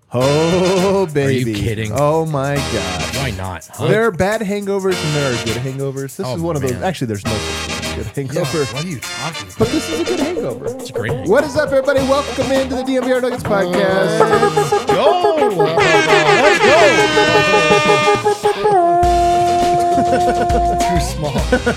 Oh, baby. Are you kidding? Oh, my God. Why not? Huh? There are bad hangovers and there are good hangovers. This Oh, is one of those. man. Actually, there's no such thing as a good hangover. What are you talking about? But this is a good hangover. It's a great hangover. What is up, everybody? Welcome into the DNVR Nuggets podcast. Too small.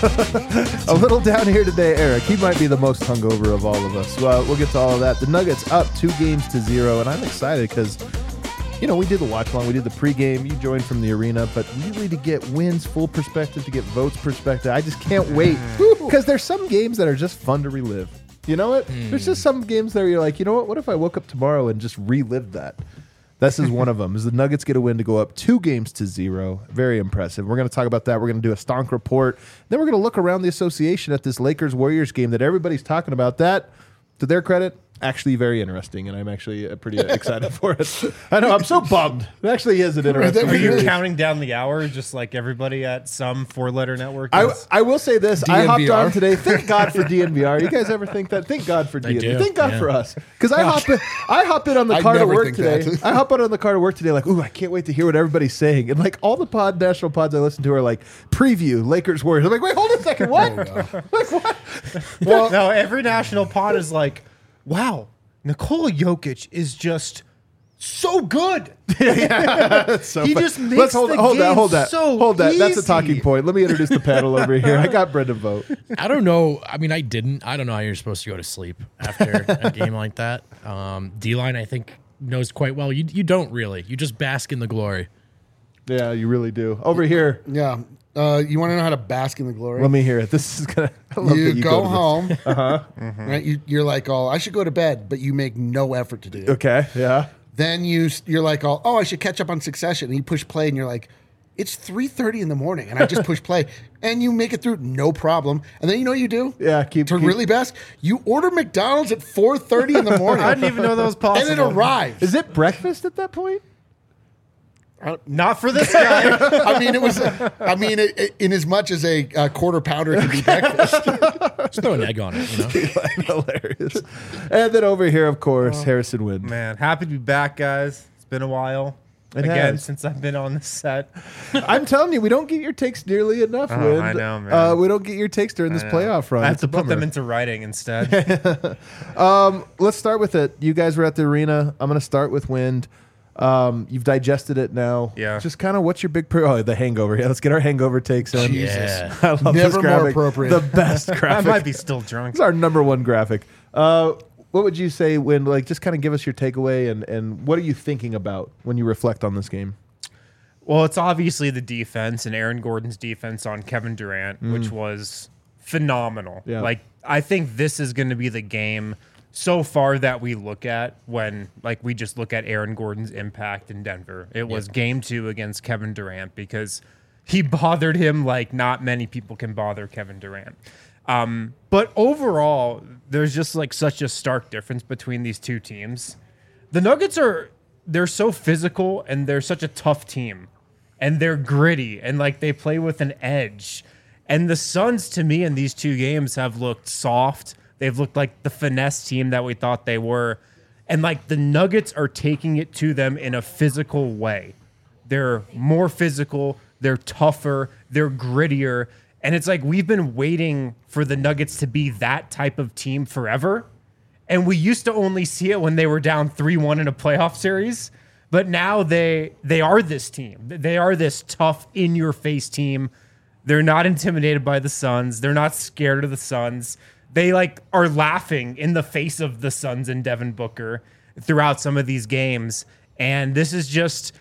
A little down here today, Eric. He might be the most hungover of all of us. Well, we'll get to all of that. The Nuggets up 2-0, and I'm excited because, you know, we did the watch along, we did the pregame. You joined from the arena, but really to get wins, full perspective, to get votes perspective, I just can't wait because there's some games that are just fun to relive. You know what? There's just some games that you're like, you know what? What if I woke up tomorrow and just relived that? This is one of them. Is the Nuggets get a win to go up 2-0. Very impressive. We're going to talk about that. We're going to do a stonk report. Then we're going to look around the association at this Lakers-Warriors game that everybody's talking about. That, to their credit, actually very interesting, and I'm actually pretty excited for it. I know, I'm so bummed. It actually is an interesting Were you series. counting down the hour just like everybody at some four-letter network is? I will say this. I hopped DNVR. on today. Thank God for DNVR. You guys ever think that? Thank God for DNVR. do, Thank God yeah. for us. Because I hop in on the I'd car to never work think today. that. I hop on the car to work today like, ooh, I can't wait to hear what everybody's saying. And like all the national pods I listen to are like, preview, Lakers, Warriors. I'm like, wait, hold on a second. What? Like, what? Well, no, every national pod is like, wow, Nikola Jokic is just so good. So He fun. just makes Let's hold the that. Hold game that. so Hold that. That's a easy. talking point. Let me introduce the panel over here. I got Brendan vote. I don't know. I mean, I don't know how you're supposed to go to sleep after a game like that. D-line, I think, knows quite well. You don't really. You just bask in the glory. Yeah, you really do. Over here, Yeah. You want to know how to bask in the glory? let me hear it. This is gonna. I love that You you go to this. home. Right? You're like, oh, I should go to bed, but you make no effort to do it. Okay. Yeah. Then you're like, oh, I should catch up on Succession. And you push play, and you're like, it's 3:30 in the morning, and I just push play, and you make it through no problem. And then you know what you do? Yeah. Keep Really bask? You order McDonald's at 4:30 in the morning. I didn't even know that was and possible. it arrives. Is it breakfast at that point? Not for this guy. I mean, it was. In as much as a quarter pounder can be breakfast. Just throw an egg on it, you know? Hilarious. And then over here, of course, Harrison Wind. Man, happy to be back, guys. It's been a while. It Again, has. since I've been on the set. I'm telling you, we don't get your takes nearly enough, Wind. I know, man. We don't get your takes during this playoff run. I have It's to a put them bummer. into writing instead. Let's start with it. You guys were at the arena. I'm going to start with Wind. You've digested it now. Yeah. Just kind of what's your big... the hangover. Yeah, let's get our hangover takes in. Yeah. I love this Never more graphic. appropriate. The best I graphic. might be still drunk. It's our number one graphic. What would you say when, like, just kind of give us your takeaway and what are you thinking about when you reflect on this game? Well, it's obviously the defense and Aaron Gordon's defense on Kevin Durant, which was phenomenal. Yeah. Like, I think this is going to be the game so far that we look at when, like, we just look at Aaron Gordon's impact in Denver. It was game 2 against Kevin Durant because he bothered him like not many people can bother Kevin Durant. But overall, there's just like such a stark difference between these two teams. The Nuggets they're so physical and they're such a tough team and they're gritty and like they play with an edge. And the Suns, to me, in these two games have looked soft. They've looked like the finesse team that we thought they were. And like the Nuggets are taking it to them in a physical way. They're more physical, they're tougher, they're grittier. And it's like we've been waiting for the Nuggets to be that type of team forever. And we used to only see it when they were down 3-1 in a playoff series. But now they are this team. They are this tough, in-your-face team. They're not intimidated by the Suns. They're not scared of the Suns. They like are laughing in the face of the Suns and Devin Booker throughout some of these games. And this is just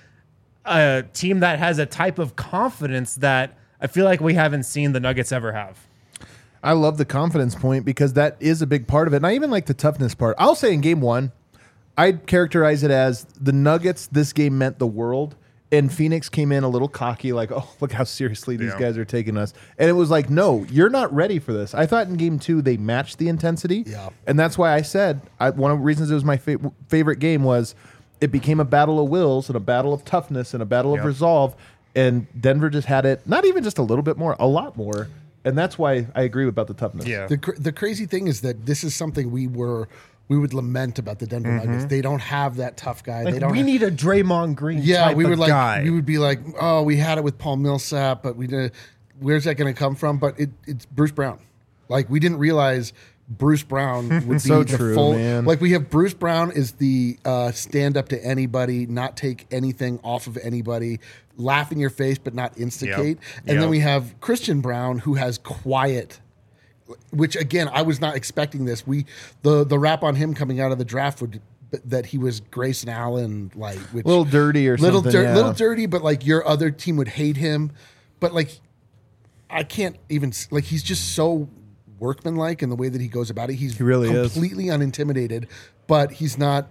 a team that has a type of confidence that I feel like we haven't seen the Nuggets ever have. I love the confidence point because that is a big part of it. And I even like the toughness part. I'll say in game 1, I'd characterize it as the Nuggets, this game meant the world. And Phoenix came in a little cocky, like, oh, look how seriously these guys are taking us. And it was like, no, you're not ready for this. I thought in game 2 they matched the intensity. Yeah. And that's why I said one of the reasons it was my favorite game was it became a battle of wills and a battle of toughness and a battle of resolve. And Denver just had it, not even just a little bit more, a lot more. And that's why I agree about the toughness. Yeah. The crazy thing is that this is something we we would lament about the Denver Nuggets. They don't have that tough guy. Like, They don't. we need a Draymond Green. Yeah, type we of would like. guy. We would be like, oh, we had it with Paul Millsap, but we did. Where's that going to come from? But it's Bruce Brown. Like, we didn't realize Bruce Brown would be So the true, full. man. Like, we have Bruce Brown is the stand up to anybody, not take anything off of anybody, laugh in your face but not instigate. And then Yep. we have Christian Brown, who has quiet. Which again, I was not expecting this. The rap on him coming out of the draft would that he was Grayson Allen, like which Little dirty or something, yeah. little dirty, but like your other team would hate him. But like, I can't even like he's just so workmanlike in the way that he goes about it. He really is. completely unintimidated, but he's not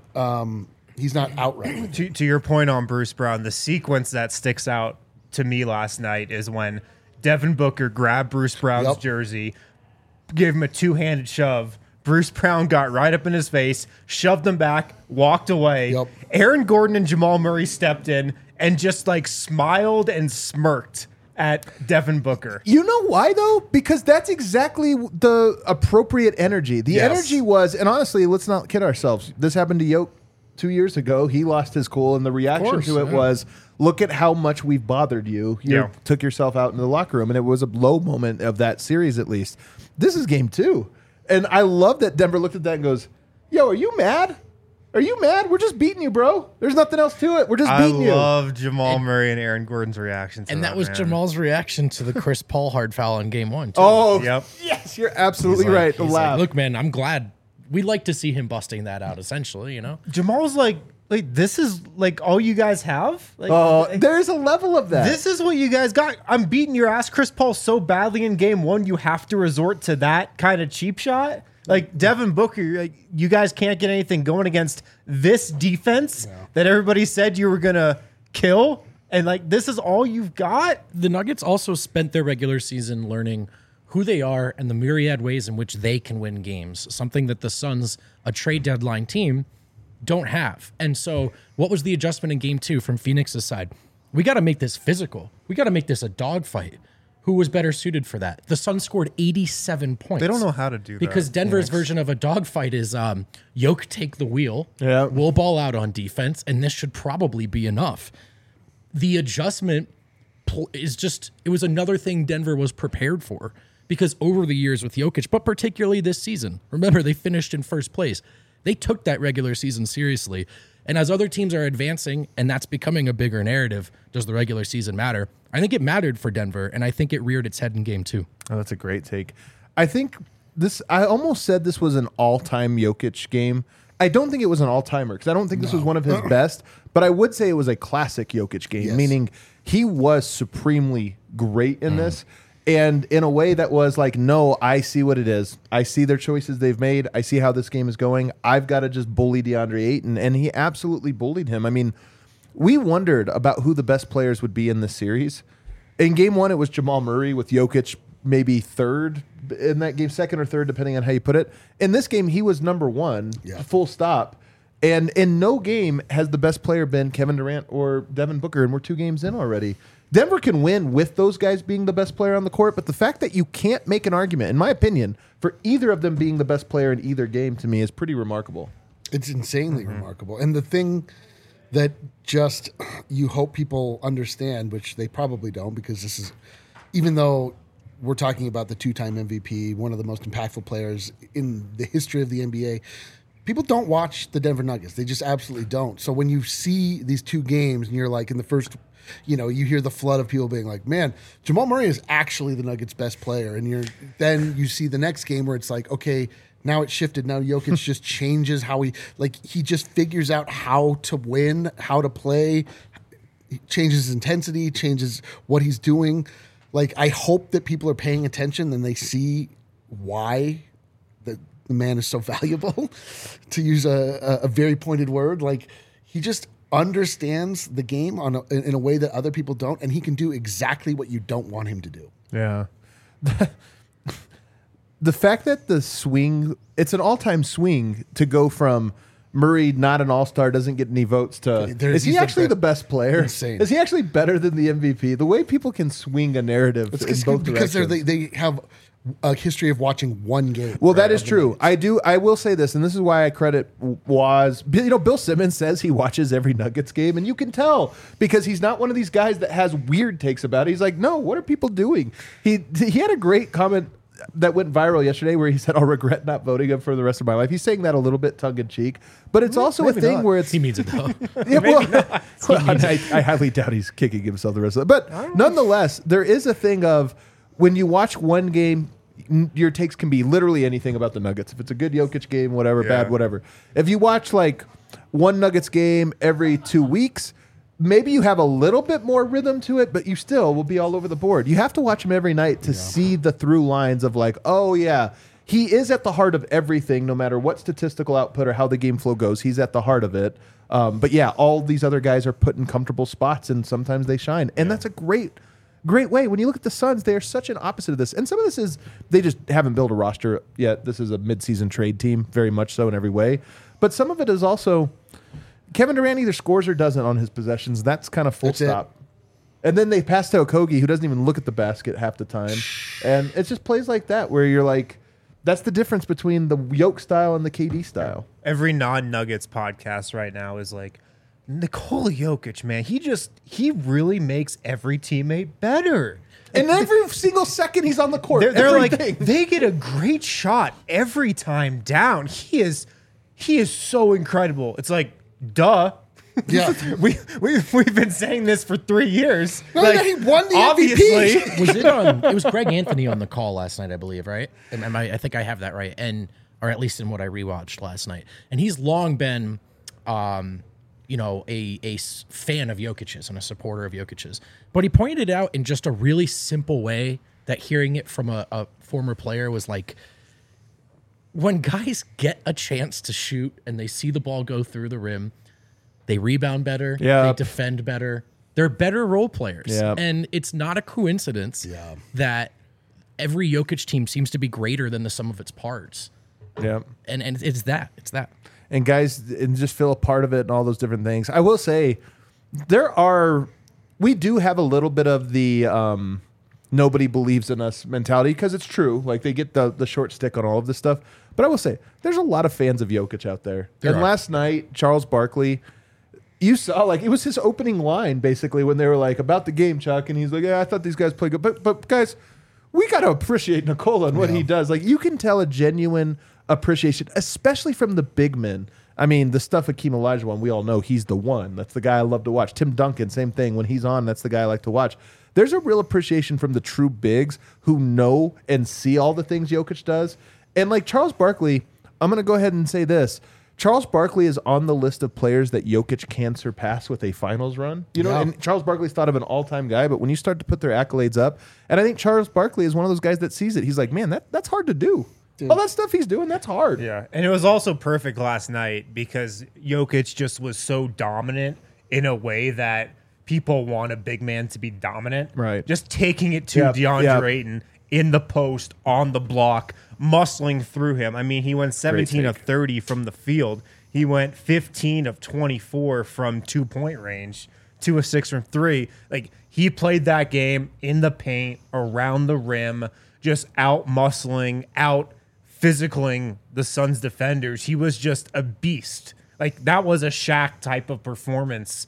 outright. To your point on Bruce Brown, the sequence that sticks out to me last night is when Devin Booker grabbed Bruce Brown's Yep. jersey, gave him a two-handed shove. Bruce Brown got right up in his face, shoved him back, walked away. Yep. Aaron Gordon and Jamal Murray stepped in and just like smiled and smirked at Devin Booker. You know why though? Because that's exactly the appropriate energy. The Yes. energy was, and honestly, let's not kid ourselves. This happened to Yoke 2 years ago. He lost his cool, and the reaction course, to it yeah. was, "Look at how much we've bothered you. You Yeah. took yourself out in the locker room," and it was a low moment of that series, at least. This is game 2, and I love that Denver looked at that and goes, "Yo, are you mad? Are you mad? We're just beating you, bro. There's nothing else to it. We're just I beating you." love Jamal Murray and Aaron Gordon's reaction to And that was man. Jamal's reaction to the Chris Paul hard foul in game 1. Too. Oh, Yep. yes, you're absolutely He's like- right. The he's like, laugh. look, man, I'm glad. We'd like to see him busting that out, essentially, you know? Jamal's like, this is like all you guys have? Like, Oh, there's a level of that. this is what you guys got. I'm beating your ass, Chris Paul, so badly in game 1, you have to resort to that kind of cheap shot. Like Devin Booker, like, you guys can't get anything going against this defense that everybody said you were gonna kill, and like this is all you've got. The Nuggets also spent their regular season learning who they are and the myriad ways in which they can win games, something that the Suns, a trade deadline team, don't have. And so what was the adjustment in game 2 from Phoenix's side? We got to make this physical. We got to make this a dogfight. Who was better suited for that? The Suns scored 87 points. They don't know how to do that. Because Denver's version of a dogfight is Yoke take the wheel, Yeah. we'll ball out on defense, and this should probably be enough. The adjustment is just, it was another thing Denver was prepared for. Because over the years with Jokic, but particularly this season, remember they finished in first place. They took that regular season seriously. And as other teams are advancing, and that's becoming a bigger narrative, does the regular season matter? I think it mattered for Denver, and I think it reared its head in game 2. Oh, that's a great take. I think this, I almost said this was an all-time Jokic game. I don't think it was an all-timer because I don't think this was one of his best, but I would say it was a classic Jokic game, Yes. meaning he was supremely great in this. And in a way that was like, no, I see what it is. I see their choices they've made. I see how this game is going. I've got to just bully DeAndre Ayton. And he absolutely bullied him. I mean, we wondered about who the best players would be in this series. In game 1, it was Jamal Murray with Jokic maybe third in that game, second or third, depending on how you put it. In this game, he was number 1, full stop. And in no game has the best player been Kevin Durant or Devin Booker, and we're 2 games in already. Denver can win with those guys being the best player on the court, but the fact that you can't make an argument, in my opinion, for either of them being the best player in either game to me is pretty remarkable. It's insanely remarkable. And the thing that just you hope people understand, which they probably don't, because this is, even though we're talking about the 2-time MVP, one of the most impactful players in the history of the NBA, people don't watch the Denver Nuggets. They just absolutely don't. So when you see these 2 games and you're like in the first, you hear the flood of people being like, man, Jamal Murray is actually the Nuggets' best player. And then you see the next game where it's like, okay, now it's shifted. Now Jokic just changes how he just figures out how to win, how to play, he changes his intensity, changes what he's doing. Like, I hope that people are paying attention and they see why the man is so valuable, to use a very pointed word. Like, he just understands the game in a way that other people don't, and he can do exactly what you don't want him to do. Yeah. The fact that the swing, it's an all-time swing to go from Murray, not an all-star, doesn't get any votes to. Is he he's the actually the best. best player? Insane. Is he actually better than the MVP? The way people can swing a narrative in both because directions. they have a history of watching one game. Well, that is true. I will say this, and this is why I credit Waz. Bill Simmons says he watches every Nuggets game, and you can tell because he's not one of these guys that has weird takes about it. He's like, no, what are people doing? He had a great comment that went viral yesterday where he said, I'll regret not voting him for the rest of my life. He's saying that a little bit tongue in cheek, but it's also a thing where it's. He means it though. Yeah, I highly doubt he's kicking himself the rest of it. But nonetheless, there is a thing of when you watch one game, your takes can be literally anything about the Nuggets. If it's a good Jokic game, whatever, bad, whatever. If you watch like one Nuggets game every 2 weeks, maybe you have a little bit more rhythm to it, but you still will be all over the board. You have to watch them every night to see the through lines of like, oh yeah, he is at the heart of everything, no matter what statistical output or how the game flow goes. He's at the heart of it. But yeah, all these other guys are put in comfortable spots, and sometimes they shine. And that's a great way. When you look at the Suns, they are such an opposite of this. And some of this is they just haven't built a roster yet. This is a midseason trade team, very much so in every way. But some of it is also Kevin Durant either scores or doesn't on his possessions. That's kind of full stop. And then they pass to Okogie, who doesn't even look at the basket half the time. And it's just plays like that where you're like, that's the difference between the Yoke style and the KD style. Every non-Nuggets podcast right now is like, Nikola Jokic, man, he really makes every teammate better. And every single second he's on the court, they're like, they get a great shot every time down. He is so incredible. It's like, duh. Yeah. We've been saying this for 3 years. No, like, yeah, he won the obviously. MVP. It was Greg Anthony on the call last night, I believe, right? I think I have that right, or at least in what I rewatched last night. And he's long been, a fan of Jokic's and a supporter of Jokic's. But he pointed out in just a really simple way that hearing it from a former player was like, when guys get a chance to shoot and they see the ball go through the rim, they rebound better, they defend better, they're better role players. Yep. And it's not a coincidence that every Jokic team seems to be greater than the sum of its parts. Yeah. And it's that. And guys, and just feel a part of it and all those different things. I will say, we do have a little bit of the nobody believes in us mentality because it's true. Like they get the short stick on all of this stuff. But I will say, there's a lot of fans of Jokic out there. Last night, Charles Barkley, you saw like it was his opening line basically when they were like about the game, Chuck, and he's like, yeah, I thought these guys played good, but guys, we got to appreciate Nikola and what he does. Like you can tell a genuine appreciation, especially from the big men. I mean, the stuff Hakeem Olajuwon, we all know he's the one. That's the guy I love to watch. Tim Duncan, same thing. When he's on, that's the guy I like to watch. There's a real appreciation from the true bigs who know and see all the things Jokic does. And like Charles Barkley, I'm going to go ahead and say this. Charles Barkley is on the list of players that Jokic can surpass with a finals run. You know, and Charles Barkley's thought of an all-time guy, but when you start to put their accolades up, and I think Charles Barkley is one of those guys that sees it. He's like, man, that's hard to do. Dude. All that stuff he's doing, that's hard. Yeah, and it was also perfect last night because Jokic just was so dominant in a way that people want a big man to be dominant. Right. Just taking it to DeAndre Ayton in the post, on the block, muscling through him. I mean, he went 17 of 30 from the field. He went 15 of 24 from 2-point range, 2 of 6 from 3. Like, he played that game in the paint, around the rim, just out muscling, out physicaling the Suns defenders. He was just a beast. Like, that was a Shaq type of performance,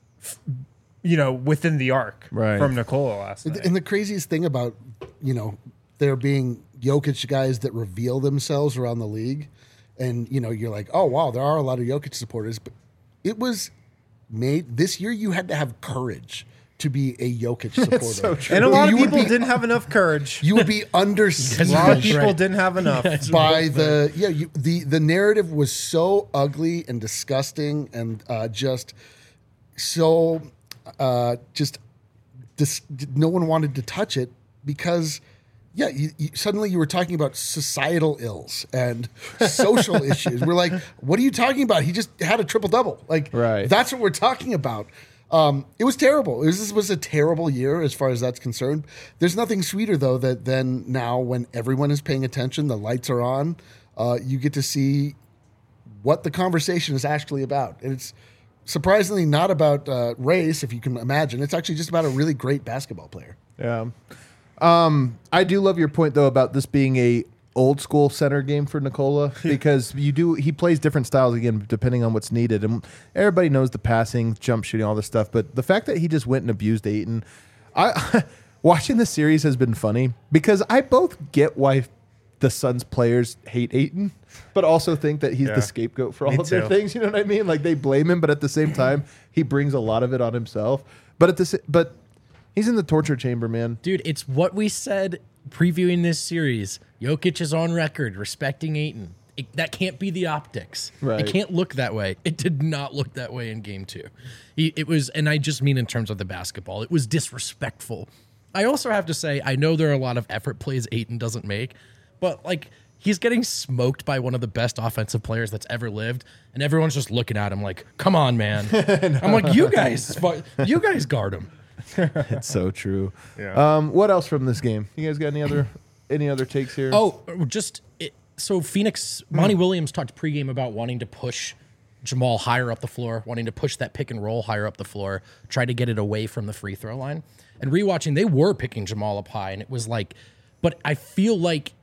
within the arc from Nikola last night. And the craziest thing about, there being Jokic guys that reveal themselves around the league, and, you're like, oh, wow, there are a lot of Jokic supporters, but it was made this year. You had to have courage to be a Jokic supporter. So true. And a lot of people didn't have enough courage. You would be A lot of undersludged people didn't have enough. by the narrative was so ugly and disgusting and just so no one wanted to touch it because suddenly you were talking about societal ills and social issues. We're like, what are you talking about? He just had a triple-double. Like, that's what we're talking about. It was terrible. This was a terrible year as far as that's concerned. There's nothing sweeter, though, than now when everyone is paying attention, the lights are on, you get to see what the conversation is actually about. And it's surprisingly not about race, if you can imagine. It's actually just about a really great basketball player. Yeah. I do love your point though about this being a old school center game for Nikola because he plays different styles again depending on what's needed, and everybody knows the passing, jump shooting, all this stuff. But the fact that he just went and abused Ayton, watching the series has been funny because I both get why the Suns players hate Ayton, but also think that he's the scapegoat for all of their things. You know what I mean? Like they blame him, but at the same time, he brings a lot of it on himself. But he's in the torture chamber, man. Dude, it's what we said previewing this series. Jokic is on record respecting Ayton. That can't be the optics. Right. It can't look that way. It did not look that way in game 2. It was, and I just mean in terms of the basketball, it was disrespectful. I also have to say, I know there are a lot of effort plays Ayton doesn't make, but like he's getting smoked by one of the best offensive players that's ever lived, and everyone's just looking at him like, come on, man. I'm like, you guys guard him. It's so true. Yeah. What else from this game? You guys got any other takes here? So Phoenix, Monty Williams talked pregame about wanting to push Jamal higher up the floor, wanting to push that pick and roll higher up the floor, try to get it away from the free throw line. And rewatching, they were picking Jamal up high, and it was like, but I feel like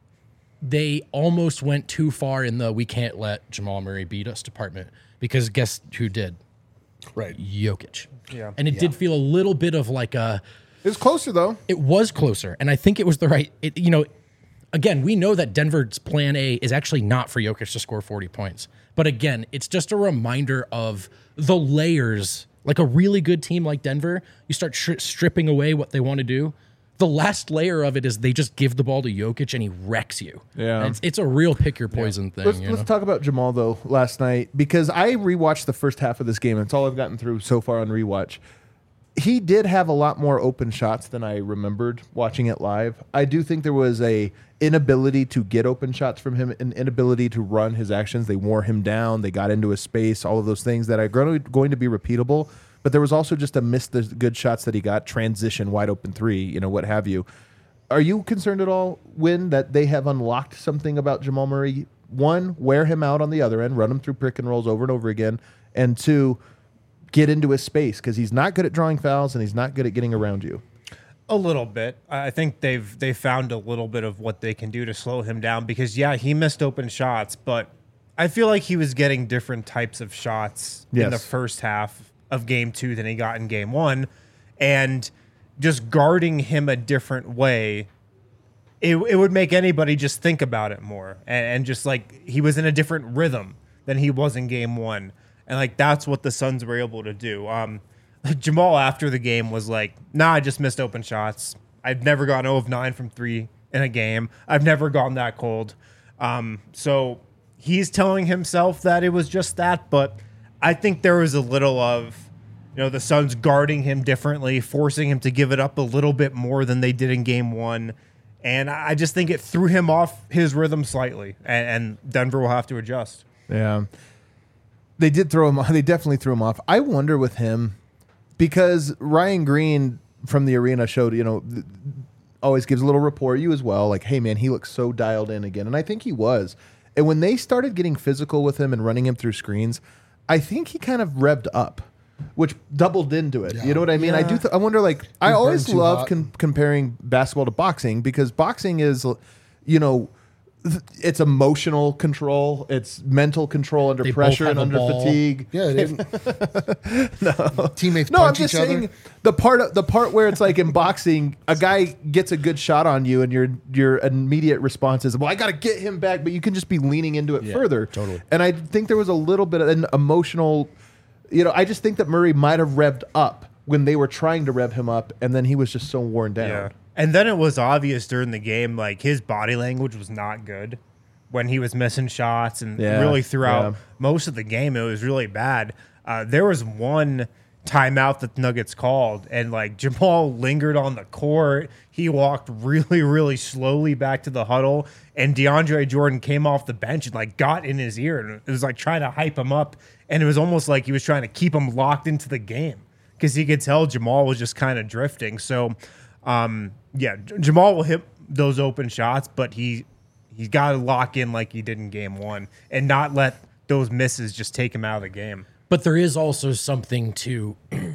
they almost went too far in the we can't let Jamal Murray beat us department, because guess who did? Right. Jokic. Yeah. And it did feel a little bit of like a... It was closer, though. It was closer, and I think it was the right... Again, we know that Denver's plan A is actually not for Jokic to score 40 points. But again, it's just a reminder of the layers. Like a really good team like Denver, you start stripping away what they want to do. The last layer of it is they just give the ball to Jokic and he wrecks you. Yeah. And it's a real pick your poison thing. Let's talk about Jamal, though, last night, because I rewatched the first half of this game, and it's all I've gotten through so far on rewatch. He did have a lot more open shots than I remembered watching it live. I do think there was a inability to get open shots from him, an inability to run his actions. They wore him down. They got into his space, all of those things that are going to be repeatable. But there was also just a miss the good shots that he got, transition, wide open three, what have you. Are you concerned at all, Win, that they have unlocked something about Jamal Murray? One, wear him out on the other end, run him through pick and rolls over and over again. And two, get into his space, because he's not good at drawing fouls and he's not good at getting around you. A little bit. I think they've found a little bit of what they can do to slow him down, because he missed open shots, but I feel like he was getting different types of shots in the first half of game 2 than he got in game 1, and just guarding him a different way, it would make anybody just think about it more, and just like he was in a different rhythm than he was in game 1, and like that's what the Suns were able to do. Jamal after the game was like, nah, I just missed open shots. I've never gone 0 of 9 from 3 in a game. I've never gone that cold. So he's telling himself that it was just that, but I think there was a little of, the Suns guarding him differently, forcing him to give it up a little bit more than they did in game 1. And I just think it threw him off his rhythm slightly, and Denver will have to adjust. Yeah. They did throw him off. They definitely threw him off. I wonder with him, because Ryan Green from the arena showed, always gives a little report, you as well, like, hey, man, he looks so dialed in again. And I think he was. And when they started getting physical with him and running him through screens, I think he kind of revved up, which doubled into it. Yeah. You know what I mean? Yeah. I wonder, like, I always love comparing basketball to boxing, because boxing is, it's emotional control, it's mental control under pressure and under fatigue. Yeah, teammates. No, I'm just saying the part where it's like in boxing, a guy gets a good shot on you, and your immediate response is, "Well, I got to get him back," but you can just be leaning into it further. Totally. And I think there was a little bit of an emotional. I just think that Murray might have revved up when they were trying to rev him up, and then he was just so worn down. Yeah. And then it was obvious during the game, like his body language was not good when he was missing shots, and really throughout most of the game, it was really bad. There was one timeout that the Nuggets called, and like Jamal lingered on the court. He walked really, really slowly back to the huddle, and DeAndre Jordan came off the bench and like got in his ear, and it was like trying to hype him up, and it was almost like he was trying to keep him locked into the game, because he could tell Jamal was just kind of drifting. So Jamal will hit those open shots, but he's got to lock in like he did in game 1 and not let those misses just take him out of the game. But there is also something to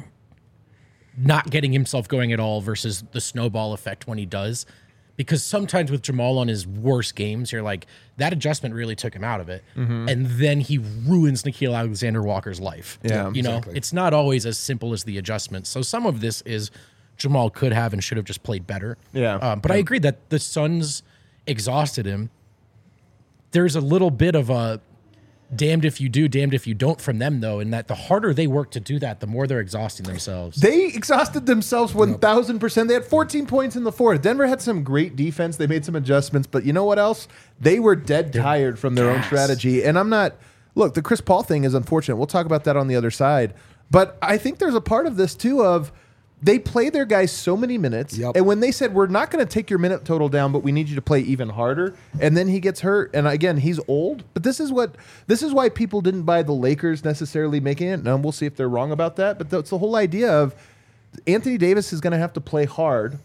not getting himself going at all versus the snowball effect when he does. Because sometimes with Jamal on his worst games, you're like, that adjustment really took him out of it. And then he ruins Nickeil Alexander-Walker's life. Yeah, you know, it's not always as simple as the adjustment. So some of this is Jamal could have and should have just played better. Yeah. But I agree that the Suns exhausted him. There's a little bit of a damned if you do, damned if you don't from them, though, in that the harder they work to do that, the more they're exhausting themselves. They exhausted themselves 1,000%. They had 14 points in the fourth. Denver had some great defense. They made some adjustments, but you know what else? They were dead tired from their own strategy. And I'm not, look, the Chris Paul thing is unfortunate. We'll talk about that on the other side. But I think there's a part of this, too, of they play their guys so many minutes. And when they said, we're not going to take your minute total down, but we need you to play even harder. And then he gets hurt. And again, he's old. But this is why people didn't buy the Lakers necessarily making it. And we'll see if they're wrong about that. But that's the whole idea of Anthony Davis is going to have to play hard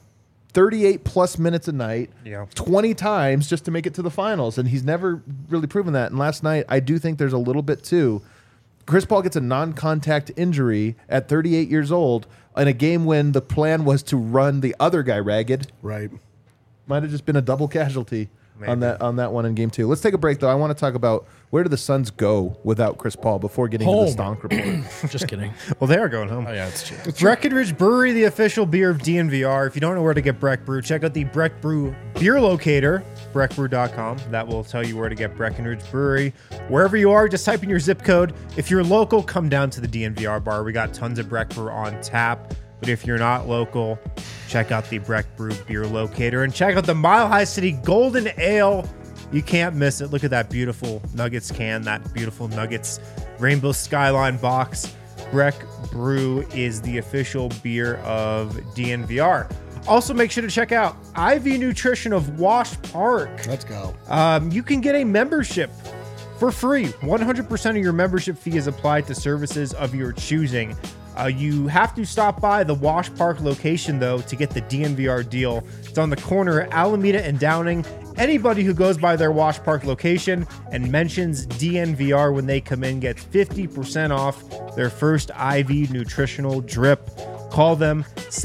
38 plus minutes a night, 20 times just to make it to the finals. And he's never really proven that. And last night, I do think there's a little bit too. Chris Paul gets a non-contact injury at 38 years old in a game when the plan was to run the other guy ragged. Right. Might have just been a double casualty on that one in game 2. Let's take a break, though. I want to talk about where do the Suns go without Chris Paul before getting to the Stonk report. Just kidding. Well, they are going home. Oh, yeah, it's true. Breckenridge Brewery, the official beer of DNVR. If you don't know where to get Breck Brew, check out the Breck Brew beer locator, breckbrew.com. That will tell you where to get Breckenridge Brewery. Wherever you are, just type in your zip code. If you're local, come down to the DNVR bar. We got tons of Breck Brew on tap. But if you're not local, check out the Breck Brew beer locator and check out the Mile High City Golden Ale. You can't miss it. Look at that beautiful Nuggets can, that beautiful Nuggets Rainbow Skyline box. Breck Brew is the official beer of DNVR. Also, make sure to check out IV Nutrition of Wash Park. Let's go. You can get a membership for free. 100% of your membership fee is applied to services of your choosing. You have to stop by the Wash Park location, though, to get the DNVR deal. It's on the corner of Alameda and Downing. Anybody who goes by their Wash Park location and mentions DNVR when they come in gets 50% off their first IV nutritional drip. Call them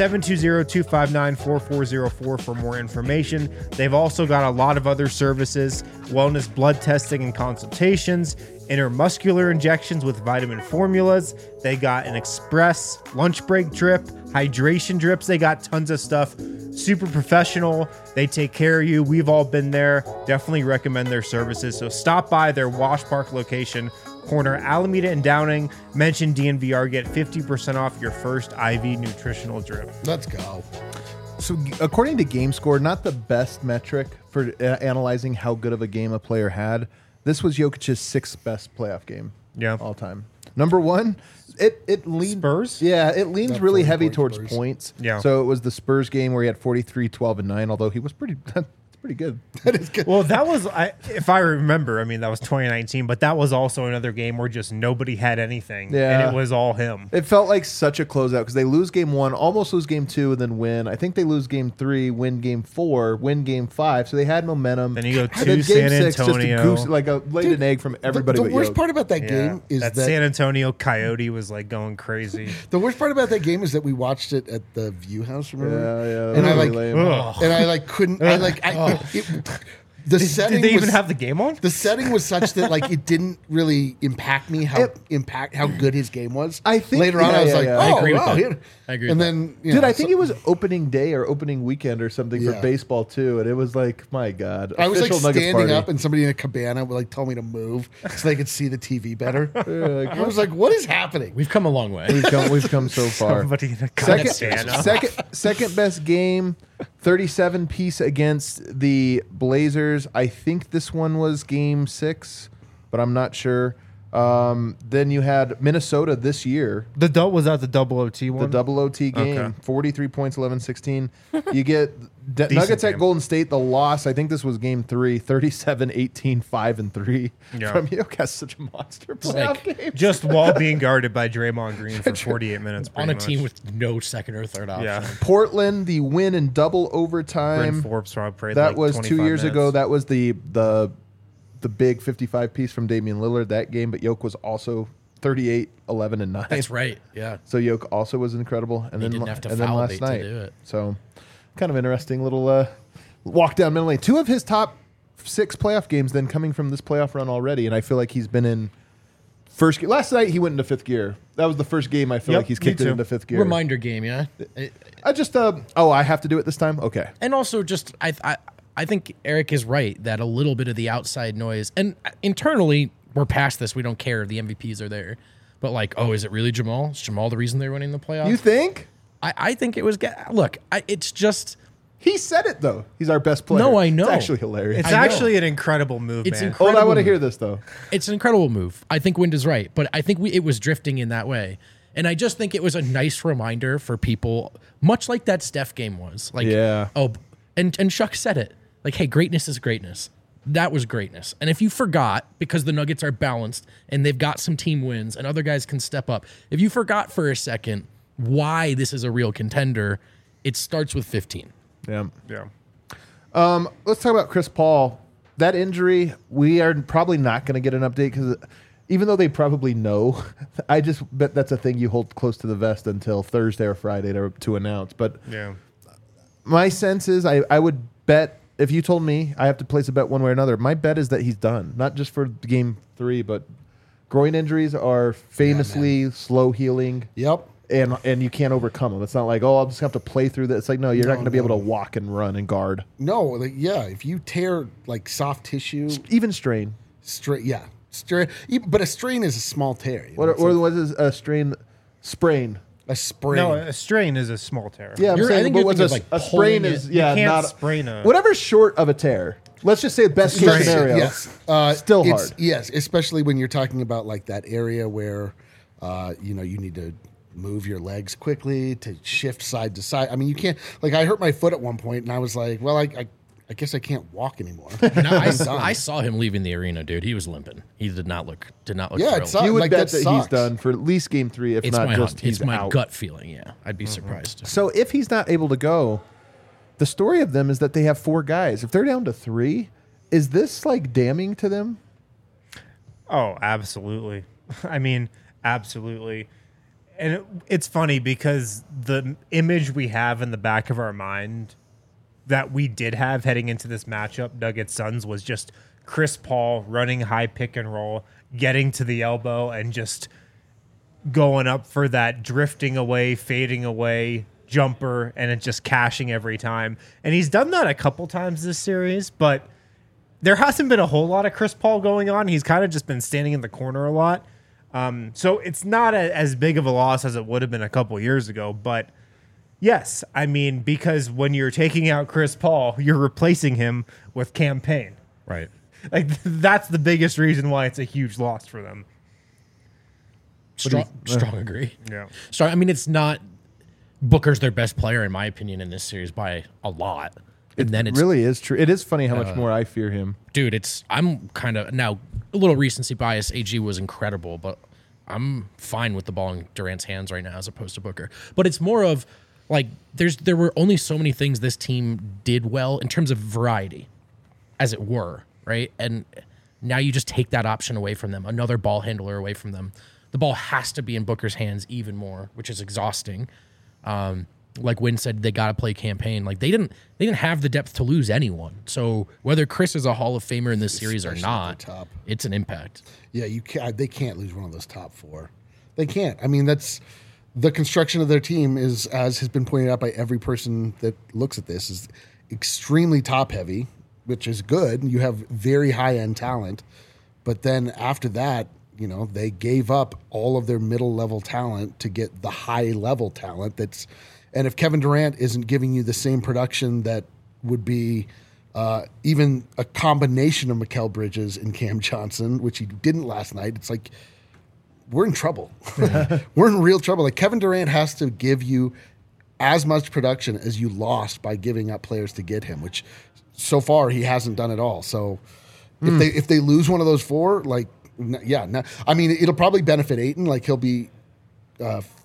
720-259-4404 for more information. They've also got a lot of other services, wellness blood testing and consultations, intermuscular injections with vitamin formulas. They got an express lunch break drip, hydration drips. They got tons of stuff. Super professional. They take care of you. We've all been there. Definitely recommend their services. So stop by their Wash Park location, corner Alameda and Downing. Mention DNVR, get 50% off your first IV nutritional drip. Let's go. So according to GameScore, not the best metric for analyzing how good of a game a player had. This was Jokic's 6th best playoff game all time. Number one, it leans Spurs? Yeah, it leans really heavy points, towards Spurs. points. Yeah. So it was the Spurs game where he had 43, 12, and 9, although he was pretty good. That is good. Well, that was, if I remember, I mean, that was 2019, but that was also another game where just nobody had anything. Yeah. And it was all him. It felt like such a closeout because they lose game 1, almost lose game 2, and then win. I think they lose game 3, win game 4, win game 5. So they had momentum. Then you go And to then San game 6, Antonio. just laid an egg from everybody. The but worst Jokic. part about that game is that San Antonio Coyote was like going crazy. the worst part about that game is that we watched it at the View House. Remember? Yeah. And I like, lame. and I like couldn't. I like. The setting. Did they even was- have the game on? The setting was such that like it didn't really impact me how good his game was. I think- later on yeah, I was yeah, like, yeah. oh, I agree with wow, that. yeah. I agree And with then, Dude, I think it was opening day or opening weekend or something for Yeah. baseball too, and it was like, my God, I was like official Nuggets standing party. up, and somebody in a cabana would like told me to move so they could see the TV better. Like, I was like, what is happening? We've come a long way. we've come so far. Somebody in a cabana. Second best game, 37 piece against the Blazers. I think this one was game 6, but I'm not sure. Then you had Minnesota this year, Was that the double OT one? the double OT game, Okay. 43 points, 11-16. You get Nuggets at game. Golden State, the loss. I think this was game 3, 37-18, 5-3. Yeah. From Jokic, such a monster playoff like- game. Just while being guarded by Draymond Green for 48 minutes. On a pretty team much. with no second or third option. Yeah. Portland, the win in double Bryn overtime. Forbes probably played That like was 2 25 years ago. minutes. That was the the big 55 piece from Damian Lillard that game, but Yoke was also 38, 11, and 9. That's right. Yeah. So Yoke also was incredible. And He then didn't have to and then foul last bait to night. do it. So kind of interesting little walk down memory lane. 2 of his top 6 playoff games then coming from this playoff run already, and I feel like he's been in first gear. Last night he went into 5th gear. That was the first game I feel Yep, like he's me kicked it too. into 5th gear. Reminder game, yeah. I just I have to do it this time. Okay. And also, just I think Eric is right that a little bit of the outside noise, and internally we're past this. We don't care. The MVPs are there, but like, oh, is it really Jamal? Is Jamal the reason they're winning the playoffs? You think? I think it was. Look, it's just. He said it though. He's our best player. No, I know. It's actually hilarious. It's I know. actually an incredible move, It's man. incredible. Hold on, I want to move. hear this though. It's an incredible move. I think Wind is right, but I think it was drifting in that way. And I just think it was a nice reminder for people, much like that Steph game was. Like, Yeah. oh, and Chuck said it. Like, hey, greatness is greatness. That was greatness. And if you forgot, because the Nuggets are balanced and they've got some team wins and other guys can step up, if you forgot for a second why this is a real contender, it starts with 15. Yeah. Yeah. Let's talk about Chris Paul. That injury, we are probably not going to get an update because even though they probably know, I just bet that's a thing you hold close to the vest until Thursday or Friday to announce. But Yeah. my sense is I would bet, if you told me I have to place a bet one way or another, my bet is that he's done. Not just for game 3, but groin injuries are famously slow healing. Yep. And you can't overcome them. It's not like, oh, I'll just have to play through that. It's like, no, you're not going to be able to walk and run and guard. No, like, yeah, if you tear like soft tissue, Even strain. but a strain is a small tear. You know? What It's like was a strain? Sprain. a sprain? No, a strain is a small tear. Yeah, I'm I saying, think but you're what's thinking of, like, a sprain pulling is it. yeah, You can't not sprain a- whatever's short of a tear. Let's just say best case Strain, scenario. yes. Still it's- hard. Yes, especially when you're talking about like that area where, you need to move your legs quickly to shift side to side. I mean, you can't. Like, I hurt my foot at one point, and I was like, well, I guess I can't walk anymore. No, I'm done. I saw him leaving the arena, dude. He was limping. He did not look Yeah, thrilled. it sucks. You would like, bet that that he's sucks. done for at least game 3, if It's not my just he's it's my out. gut feeling. Yeah, I'd be surprised. So if he's not able to go, the story of them is that they have 4 guys. If they're down to 3, is this like damning to them? Oh, absolutely. I mean, absolutely. And it's funny because the image we have in the back of our mind that we did have heading into this matchup, Nuggets Suns, was just Chris Paul running high pick and roll, getting to the elbow, and just going up for that drifting away, fading away jumper, and it just cashing every time. And he's done that a couple times this series, but there hasn't been a whole lot of Chris Paul going on. He's kind of just been standing in the corner a lot. So it's not as big of a loss as it would have been a couple years ago. But yes, I mean, because when you're taking out Chris Paul, you're replacing him with Campaign. Right. Like, that's the biggest reason why it's a huge loss for them. Strong agree. Yeah. Strong. I mean, it's not Booker's their best player in my opinion in this series by a lot. And then it's really is true. It is funny how much more I fear him. dude, I'm kind of now a little recency bias. AG was incredible, but I'm fine with the ball in Durant's hands right now as opposed to Booker. But it's more of like there were only so many things this team did well in terms of variety, as it were, right? And now you just take that option away from them, another ball handler away from them. The ball has to be in Booker's hands even more, which is exhausting. Like Wynn said, they got to play Campaign. Like they didn't have the depth to lose anyone. So whether Chris is a Hall of Famer in this series or Especially at not, the top. it's an impact. Yeah, you can't. They can't lose one of those top 4. They can't. I mean, that's the construction of their team is, as has been pointed out by every person that looks at this, is extremely top heavy, which is good. You have very high end talent, but then after that, they gave up all of their middle level talent to get the high level talent. And if Kevin Durant isn't giving you the same production that would be even a combination of Mikal Bridges and Cam Johnson, which he didn't last night, it's like we're in trouble. We're in real trouble. Like Kevin Durant has to give you as much production as you lost by giving up players to get him, which so far he hasn't done at all. So if they lose one of those 4, like, I mean, it'll probably benefit Ayton. Like he'll be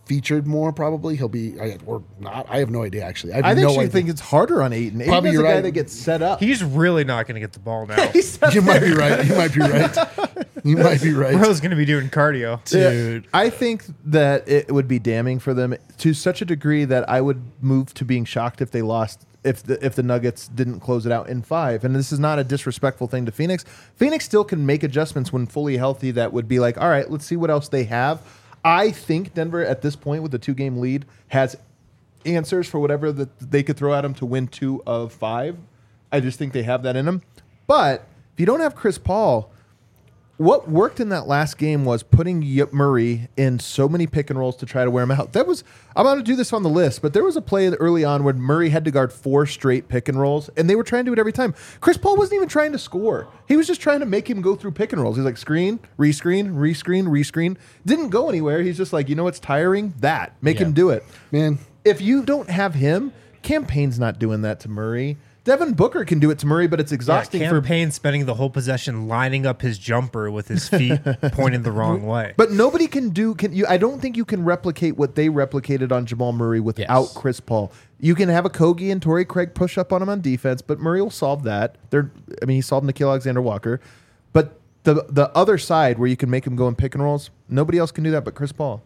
featured more. Probably he'll be or not. I have no idea. Actually, I actually think it's harder on Ayton. Probably Ayton's you're a guy right. that gets set up. He's really not going to get the ball now. You might be right. You might be right. You might be right. Bro's going to be doing cardio. Dude. Yeah, I think that it would be damning for them to such a degree that I would move to being shocked if they lost. If the Nuggets didn't close it out in 5, and this is not a disrespectful thing to Phoenix. Phoenix still can make adjustments when fully healthy. That would be like, all right, let's see what else they have. I think Denver at this point with the 2-game lead has answers for whatever that they could throw at them to win 2 of 5. I just think they have that in them. But if you don't have Chris Paul, what worked in that last game was putting Murray in so many pick and rolls to try to wear him out. I'm going to do this on the list, but there was a play early on where Murray had to guard 4 straight pick and rolls, and they were trying to do it every time. Chris Paul wasn't even trying to score. He was just trying to make him go through pick and rolls. He's like, screen, rescreen, rescreen, rescreen. Didn't go anywhere. He's just like, you know what's tiring? Make him do it. Man, If you don't have him, Campaign's not doing that to Murray. Devin Booker can do it to Murray, but it's exhausting for Campaign spending the whole possession lining up his jumper with his feet pointed the wrong way. But nobody can do. I don't think you can replicate what they replicated on Jamal Murray without Yes. Chris Paul. You can have a Kogi and Torrey Craig push up on him on defense, but Murray will solve that. He solved Nickeil Alexander-Walker. But the other side where you can make him go in pick and rolls, nobody else can do that but Chris Paul.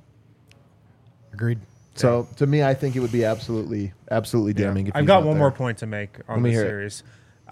Agreed. So to me, I think it would be absolutely damning. If I've he's got not one there. more point to make on me the hear it. series.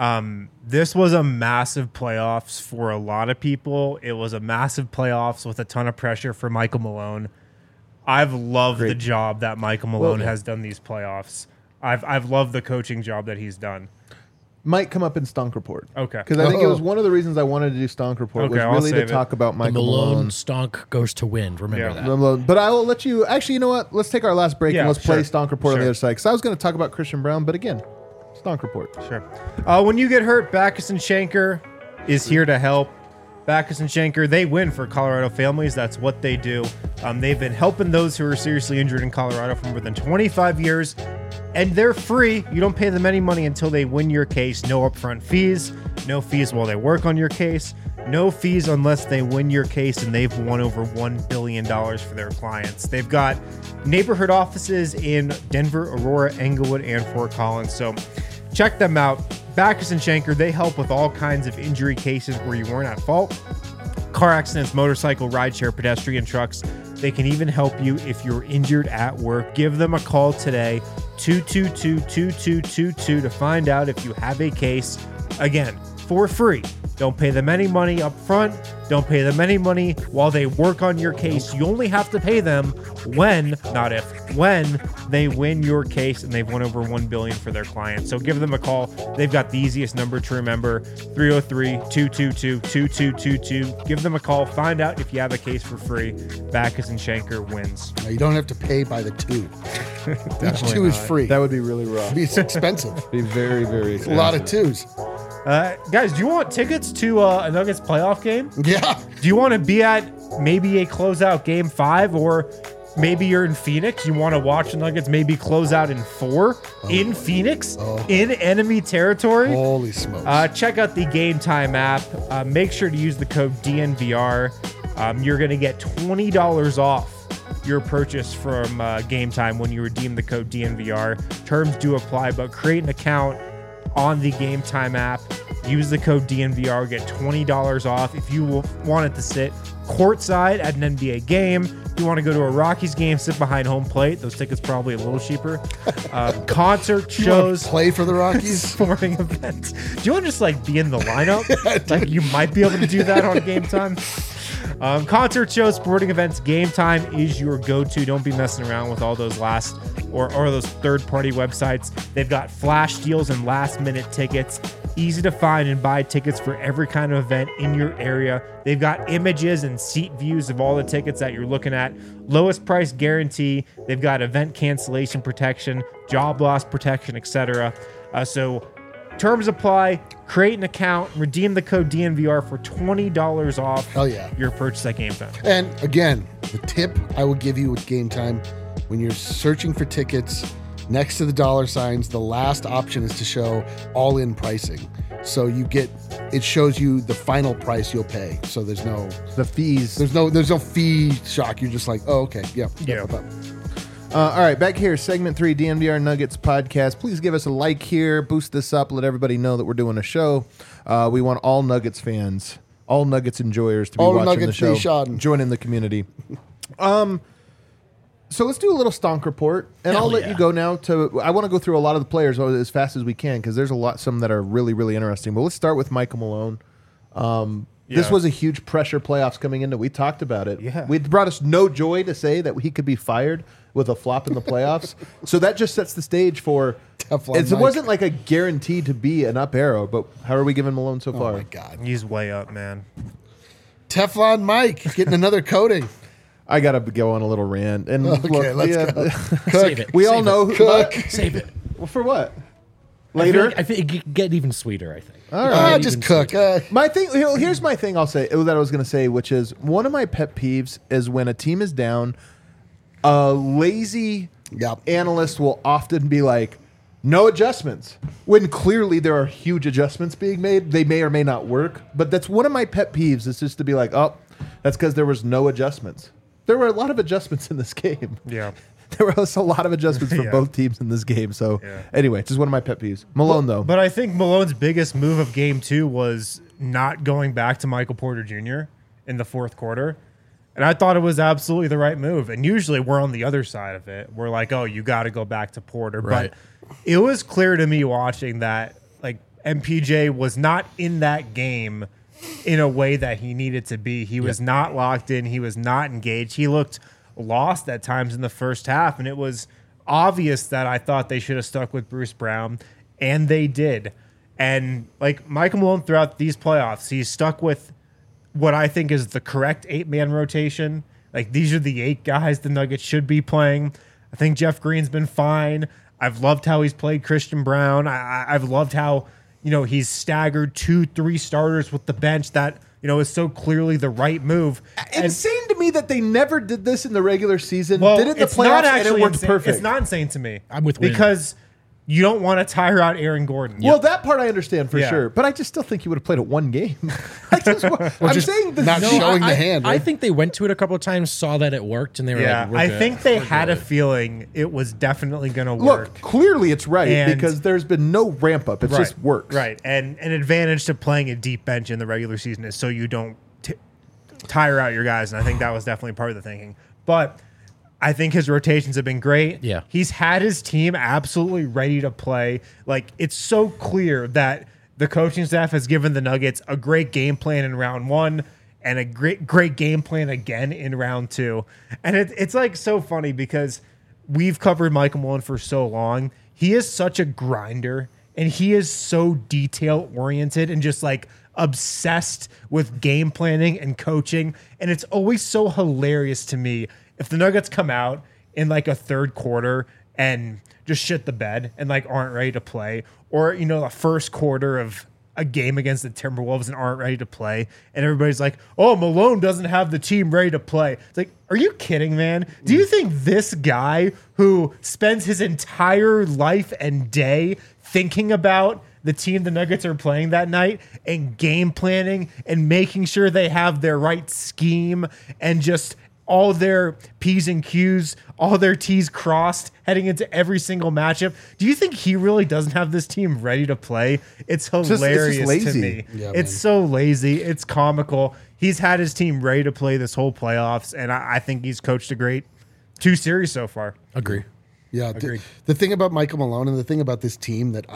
This was a massive playoffs for a lot of people. It was a massive playoffs with a ton of pressure for Michael Malone. I've loved the job that Michael Malone has done these playoffs. I've loved the coaching job that he's done. Might come up in Stunk Report. Okay. Because I think it was one of the reasons I wanted to do Stunk Report Okay, was I'll really to save it. talk about The Michael Malone stonk goes to wind. Remember Yeah. that. Malone. But I will let you. Actually, you know what? Let's take our last break Yeah, and let's play sure. Stonk Report on the Sure. other side. Because I was going to talk about Christian Brown, but again, Stonk Report. Sure. When you get hurt, Backus and Schenker is here to help. Backus and Schenker, they win for Colorado families. That's what they do. They've been helping those who are seriously injured in Colorado for more than 25 years, and they're free. You don't pay them any money until they win your case. No upfront fees, no fees while they work on your case, no fees unless they win your case and they've won over $1 billion for their clients. They've got neighborhood offices in Denver, Aurora, Englewood, and Fort Collins. So check them out. Backus and Schenker, they help with all kinds of injury cases where you weren't at fault. Car accidents, motorcycle, rideshare, pedestrian trucks. They can even help you if you're injured at work. Give them a call today, 222-2222, to find out if you have a case. Again, for free. Don't pay them any money up front. Don't pay them any money while they work on your case. You only have to pay them when, not if, when they win your case and they've won over $1 billion for their clients. So give them a call. They've got the easiest number to remember, 303-222-2222. Give them a call. Find out if you have a case for free. Backus and Schenker wins. you don't have to pay by the 2. Each 2 is free. That would be really rough. It's expensive. Be very, very A expensive. lot of 2s. Guys, do you want tickets to a Nuggets playoff game? Yeah. Do you want to be at maybe a closeout game 5, or maybe you're in Phoenix? You want to watch the Nuggets maybe close out in 4 in Phoenix in enemy territory? Holy smokes. Check out the Game Time app. Make sure to use the code DNVR. You're going to get $20 off your purchase from Game Time when you redeem the code DNVR. Terms do apply, but create an account on the Game Time app. Use the code DNVR, get $20 off. If you wanted to sit courtside at an NBA game, if you want to go to a Rockies game, sit behind home plate, those tickets probably a little cheaper. Concert You wanna shows, play for the Rockies? sporting events. Do you want to just like be in the lineup? Like you might be able to do that on Game Time. Concert shows, sporting events, Game Time is your go-to. Don't be messing around with all those last or those third-party websites. They've got flash deals and last-minute tickets. Easy to find and buy tickets for every kind of event in your area. They've got images and seat views of all the tickets that you're looking at. Lowest price guarantee. They've got event cancellation protection, job loss protection, etc. So terms apply. Create an account. Redeem the code DNVR for $20 off. Hell yeah. Your purchase at Game Time. And again, the tip I will give you with Game Time, when you're searching for tickets, next to the dollar signs, the last option is to show all-in pricing. So it shows you the final price you'll pay. So there's no The fees. fee shock. You're just like, oh, okay, yeah. All right, back here, segment 3, DNVR Nuggets podcast. Please give us a like here, boost this up, let everybody know that we're doing a show. We want all Nuggets fans, all Nuggets enjoyers to be All watching the Nuggets show. Nation. Join in the community. So let's do a little stonk report, and Hell I'll let yeah. you go now. I want to go through a lot of the players as fast as we can because there's some that are really, really interesting. But let's start with Michael Malone. This was a huge pressure playoffs coming into. We talked about it. Yeah. It brought us no joy to say that he could be fired with a flop in the playoffs. So that just sets the stage for. Teflon It Mike. wasn't like a guarantee to be an up arrow, but how are we giving Malone so Oh far? my God. He's way up, man. Teflon Mike getting another coating. I got to go on a little rant. And Okay, let's go. Save it. We all Save know it. who. What? Save it. Well, for what? I Later? think it could get even sweeter, I think. All right. Just cook. My thing. Here's my thing. I'll say that I was going to say, which is one of my pet peeves is when a team is down. A lazy Yep. analyst will often be like, "No adjustments," when clearly there are huge adjustments being made. They may or may not work, but that's one of my pet peeves. Is just to be like, "Oh, that's because there was no adjustments." There were a lot of adjustments in this game. Yeah. There was a lot of adjustments for Yeah. both teams in this game. So Yeah. anyway, just one of my pet peeves. Malone though. But I think Malone's biggest move of game 2 was not going back to Michael Porter Jr. in the fourth quarter. And I thought it was absolutely the right move. And usually we're on the other side of it. We're like, oh, you got to go back to Porter. Right. But it was clear to me watching that, like, MPJ was not in that game in a way that he needed to be. He was not locked in. He was not engaged. He looked lost at times in the first half. And it was obvious that I thought they should have stuck with Bruce Brown. And they did. And, like, Michael Malone throughout these playoffs, he's stuck with what I think is the correct 8-man rotation. Like, these are the 8 guys the Nuggets should be playing. I think Jeff Green's been fine. I've loved how he's played Christian Brown. I've loved how, he's staggered 2-3 starters with the bench. That, is so clearly the right move. Insane to me that they never did this in the regular season. Well, did it in the it's not playoffs and it actually worked insane. perfect. It's not insane to me. I'm with Wayne. because you don't want to tire out Aaron Gordon. Well, that part I understand for Yeah. sure, but I just still think you would have played it one game. I'm just saying this. not showing the hand. I Right? think they went to it a couple of times, saw that it worked, and they were Yeah, like, we're I good. think they We're had a good. feeling it was definitely going to work. Look, clearly it's right And- because there's been no ramp up. It just works. Right. And an advantage to playing a deep bench in the regular season is so you don't tire out your guys. And I think that was definitely part of the thinking. But I think his rotations have been great. Yeah. He's had his team absolutely ready to play. Like, it's so clear that the coaching staff has given the Nuggets a great game plan in round 1 and a great game plan again in round 2. And it's like so funny because we've covered Michael Malone for so long. He is such a grinder and he is so detail oriented and just like obsessed with game planning and coaching. And it's always so hilarious to me if the Nuggets come out in like a third quarter and just shit the bed and like aren't ready to play, or the first quarter of a game against the Timberwolves and aren't ready to play, and everybody's like, oh, Malone doesn't have the team ready to play. It's like, are you kidding, man? Do you think this guy who spends his entire life and day thinking about the team the Nuggets are playing that night and game planning and making sure they have their right scheme and just all their P's and Q's, all their T's crossed heading into every single matchup? Do you think he really doesn't have this team ready to play? It's hilarious to lazy. me. Yeah, it's man. so lazy. It's comical. He's had his team ready to play this whole playoffs, and I think he's coached a great 2 series so far. Agree. Yeah, Agreed. the thing about Michael Malone and the thing about this team that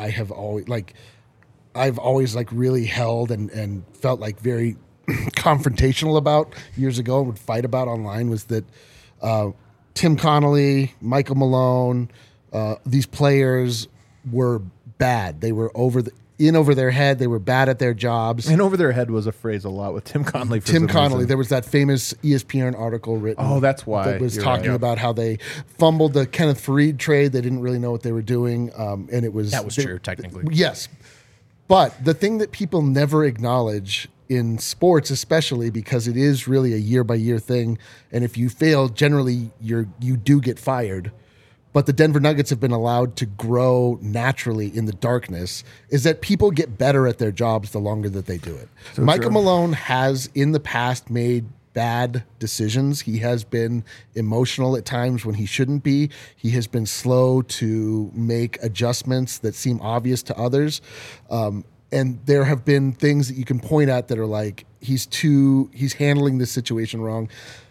I've always really held and felt like very confrontational about years ago and would fight about online was that Tim Connolly, Michael Malone, these players were bad. They were over their head. They were bad at their jobs. And over their head was a phrase a lot with Tim Connolly. For Tim some Connolly, reason. there was that famous ESPN article written. Oh, that's why. That was You're talking right. about how they fumbled the Kenneth Faried trade. They didn't really know what they were doing, and it was That was true, technically. Yes, but the thing that people never acknowledge in sports, especially because it is really a year by year thing, and if you fail, generally you do get fired. But the Denver Nuggets have been allowed to grow naturally in the darkness, is that people get better at their jobs the longer that they do it. Michael Malone has in the past made bad decisions. He has been emotional at times when he shouldn't be. He has been slow to make adjustments that seem obvious to others. And there have been things that you can point at that are like, he's handling this situation wrong.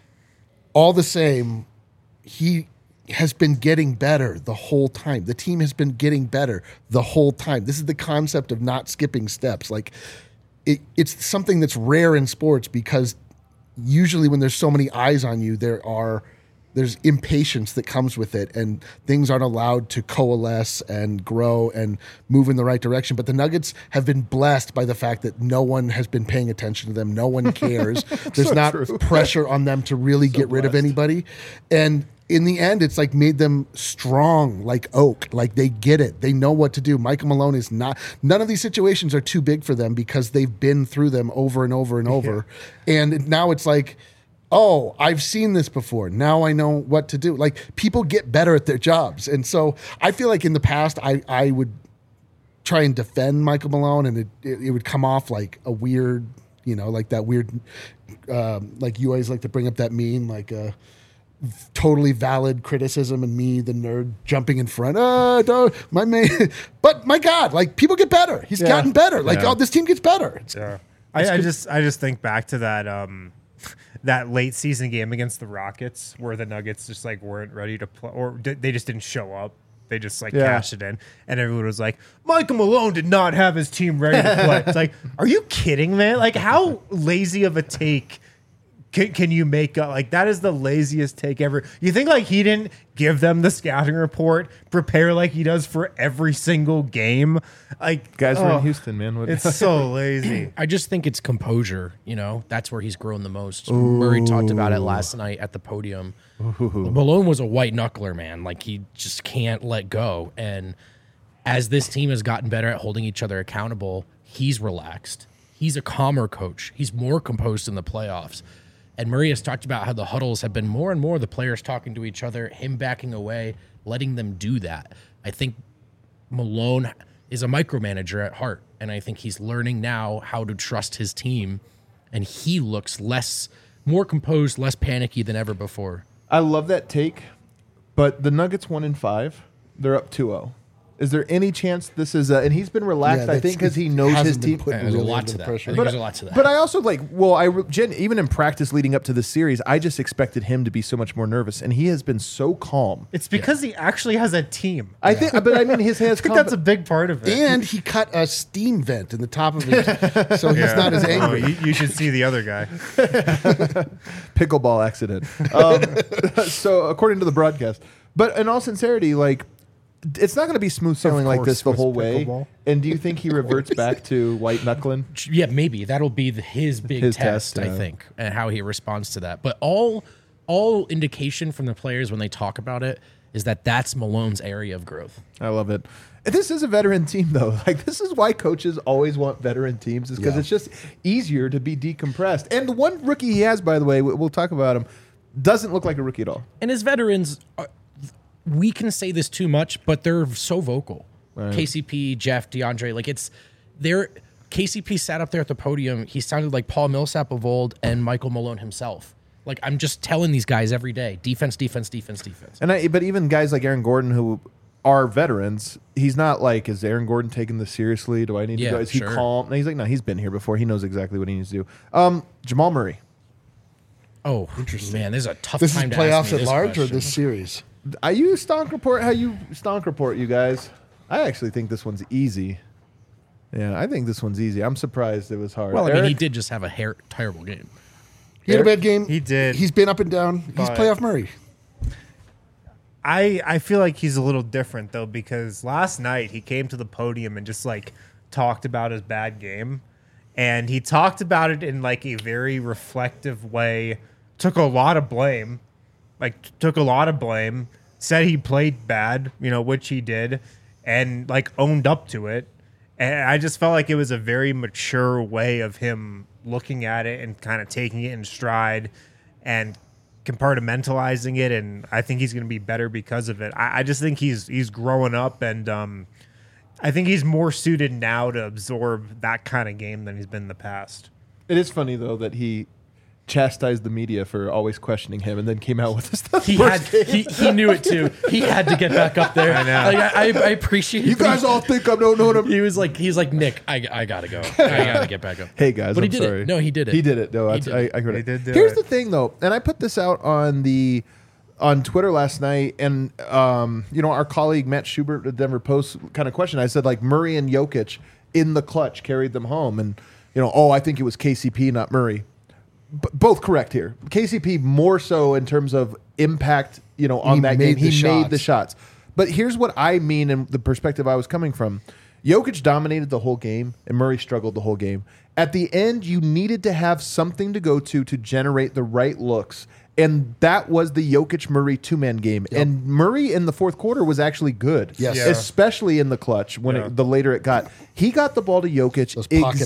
All the same, he has been getting better the whole time. The team has been getting better the whole time. This is the concept of not skipping steps. Like it's something that's rare in sports because usually when there's so many eyes on you, there's impatience that comes with it and things aren't allowed to coalesce and grow and move in the right direction. But the Nuggets have been blessed by the fact that no one has been paying attention to them. No one cares. There's not pressure on them to really get rid of anybody. And in the end, it's like made them strong like oak. Like they get it. They know what to do. Michael Malone is not, none of these situations are too big for them because they've been through them over and over and over. And now it's like, oh, I've seen this before. Now I know what to do. Like people get better at their jobs. And so I feel like in the past, I would try and defend Michael Malone and it would come off like a weird, like that weird, like you always like to bring up that meme, like totally valid criticism and me, the nerd, jumping in front. My man. But my God, like people get better. He's gotten better. Like, this team gets better. I just think back to that that late season game against the Rockets where the Nuggets just like weren't ready to play or they just didn't show up. They just cashed it in and everyone was like, Michael Malone did not have his team ready to play. It's like, are you kidding, man? Like how lazy of a take can you make up? Like that is the laziest take ever. You think like he didn't give them the scouting report, prepare like he does for every single game? Like guys were in Houston, man. It's so lazy. I just think it's composure. That's where he's grown the most. Murray talked about it last night at the podium. Malone was a white knuckler, man. Like he just can't let go. And as this team has gotten better at holding each other accountable, he's relaxed. He's a calmer coach. He's more composed in the playoffs. And Murray has talked about how the huddles have been more and more the players talking to each other, him backing away, letting them do that. I think Malone is a micromanager at heart, and I think he's learning now how to trust his team, and he looks more composed, less panicky than ever before. I love that take, but the Nuggets 1-5, they're up 2-0. Is there any chance this is and he's been relaxed, I think, because he knows his team. There's a lot to that. I think there's a lot to that. But I also even in practice leading up to this series, I just expected him to be so much more nervous, and he has been so calm. It's because he actually has a team. I think, but I mean, his hands. I think that's a big part of it. And he cut a steam vent in the top of his, so he's not as angry. You should see the other guy. Pickleball accident. So according to the broadcast, but in all sincerity, like. It's not going to be smooth sailing like this the whole way. And do you think he reverts back to white knuckling? Yeah, maybe that'll be his big test. I think, and how he responds to that. But all indication from the players when they talk about it is that that's Malone's area of growth. I love it. This is a veteran team, though. Like this is why coaches always want veteran teams, is because it's just easier to be decompressed. And the one rookie he has, by the way, we'll talk about him, doesn't look like a rookie at all. And his veterans. We can say this too much, but they're so vocal. Right. KCP, Jeff, DeAndre, KCP sat up there at the podium. He sounded like Paul Millsap of old and Michael Malone himself. Like I'm just telling these guys every day, defense. But even guys like Aaron Gordon who are veterans, he's not like, is Aaron Gordon taking this seriously? Do I need to go? Is he calm? And he's like, no, he's been here before. He knows exactly what he needs to do. Jamal Murray. Oh, interesting. Man, this is a tough this time is to ask playoffs me at this large question. or this series? How you stonk report, you guys? I actually think this one's easy. Yeah, I think this one's easy. I'm surprised it was hard. Well, I mean, he did just have a terrible game. He had a bad game. He did. He's been up and down. He's playoff Murray. I feel like he's a little different, though, because last night he came to the podium and just, talked about his bad game. And he talked about it in, a very reflective way. Took a lot of blame. Said he played bad, which he did, and owned up to it. And I just felt like it was a very mature way of him looking at it and kind of taking it in stride and compartmentalizing it. And I think he's going to be better because of it. I just think he's growing up, and I think he's more suited now to absorb that kind of game than he's been in the past. It is funny though that he chastised the media for always questioning him, and then came out with this stuff. He knew it too. He had to get back up there. I know. Like, I appreciate You guys all think I don't know what I'm. He's like, Nick, I gotta go. I gotta get back up. Hey guys, But I'm he did sorry. it. No, he did it. He did it. No, He I did it. heard He it. did do Here's it. the thing, though, and I put this out on Twitter last night, and our colleague Matt Schubert at the Denver Post kind of questioned. I said, like, Murray and Jokic in the clutch carried them home, and I think it was KCP, not Murray. Both correct here. KCP more so in terms of impact, on that game. He made the shots. But here's what I mean in the perspective I was coming from. Jokic dominated the whole game, and Murray struggled the whole game. At the end, you needed to have something to go to generate the right looks. And that was the Jokic-Murray two-man game. Yep. And Murray in the fourth quarter was actually good. Yes. Yeah. Especially in the clutch when the later it got. He got the ball to Jokic Those pocket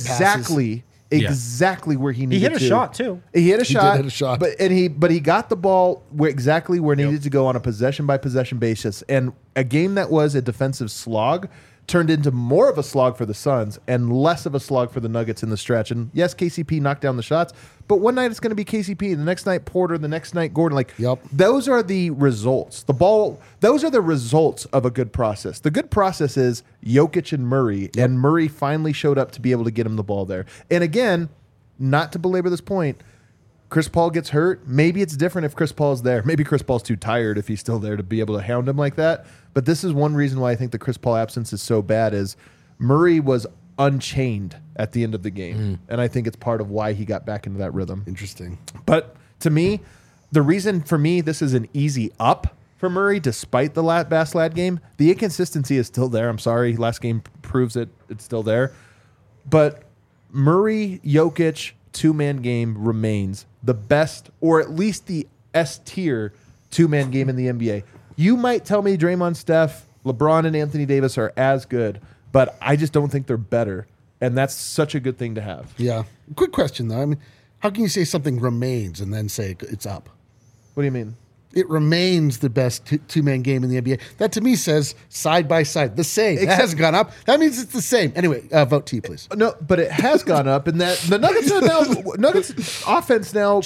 exactly where he needed to. He hit a shot too. He hit a shot. did hit a shot. But he got the ball exactly where it needed to go on a possession by possession basis. And a game that was a defensive slog turned into more of a slog for the Suns and less of a slog for the Nuggets in the stretch. And yes, KCP knocked down the shots, but one night it's going to be KCP, the next night Porter, the next night Gordon. Those are the results. Those are the results of a good process. The good process is Jokic and Murray, and Murray finally showed up to be able to get him the ball there. And again, not to belabor this point, Chris Paul gets hurt. Maybe it's different if Chris Paul's there. Maybe Chris Paul's too tired if he's still there to be able to hound him like that. But this is one reason why I think the Chris Paul absence is so bad is Murray was unchained at the end of the game. And I think it's part of why he got back into that rhythm. Interesting. But to me, the reason for me this is an easy up for Murray, despite the Bass-Lad game, the inconsistency is still there. I'm sorry. Last game proves it. It's still there. But Murray, Jokic, two-man game remains the best, or at least the S-tier two-man game in the NBA. You might tell me Draymond, Steph, LeBron, and Anthony Davis are as good, but I just don't think they're better, and that's such a good thing to have. Yeah. Quick question, though. I mean, how can you say something remains and then say it's up? What do you mean? It remains the best two-man game in the NBA. That, to me, says side by side, the same. It hasn't gone up. That means it's the same. Anyway, vote T, please. No, but it has gone up, and that the Nuggets are now Nuggets offense now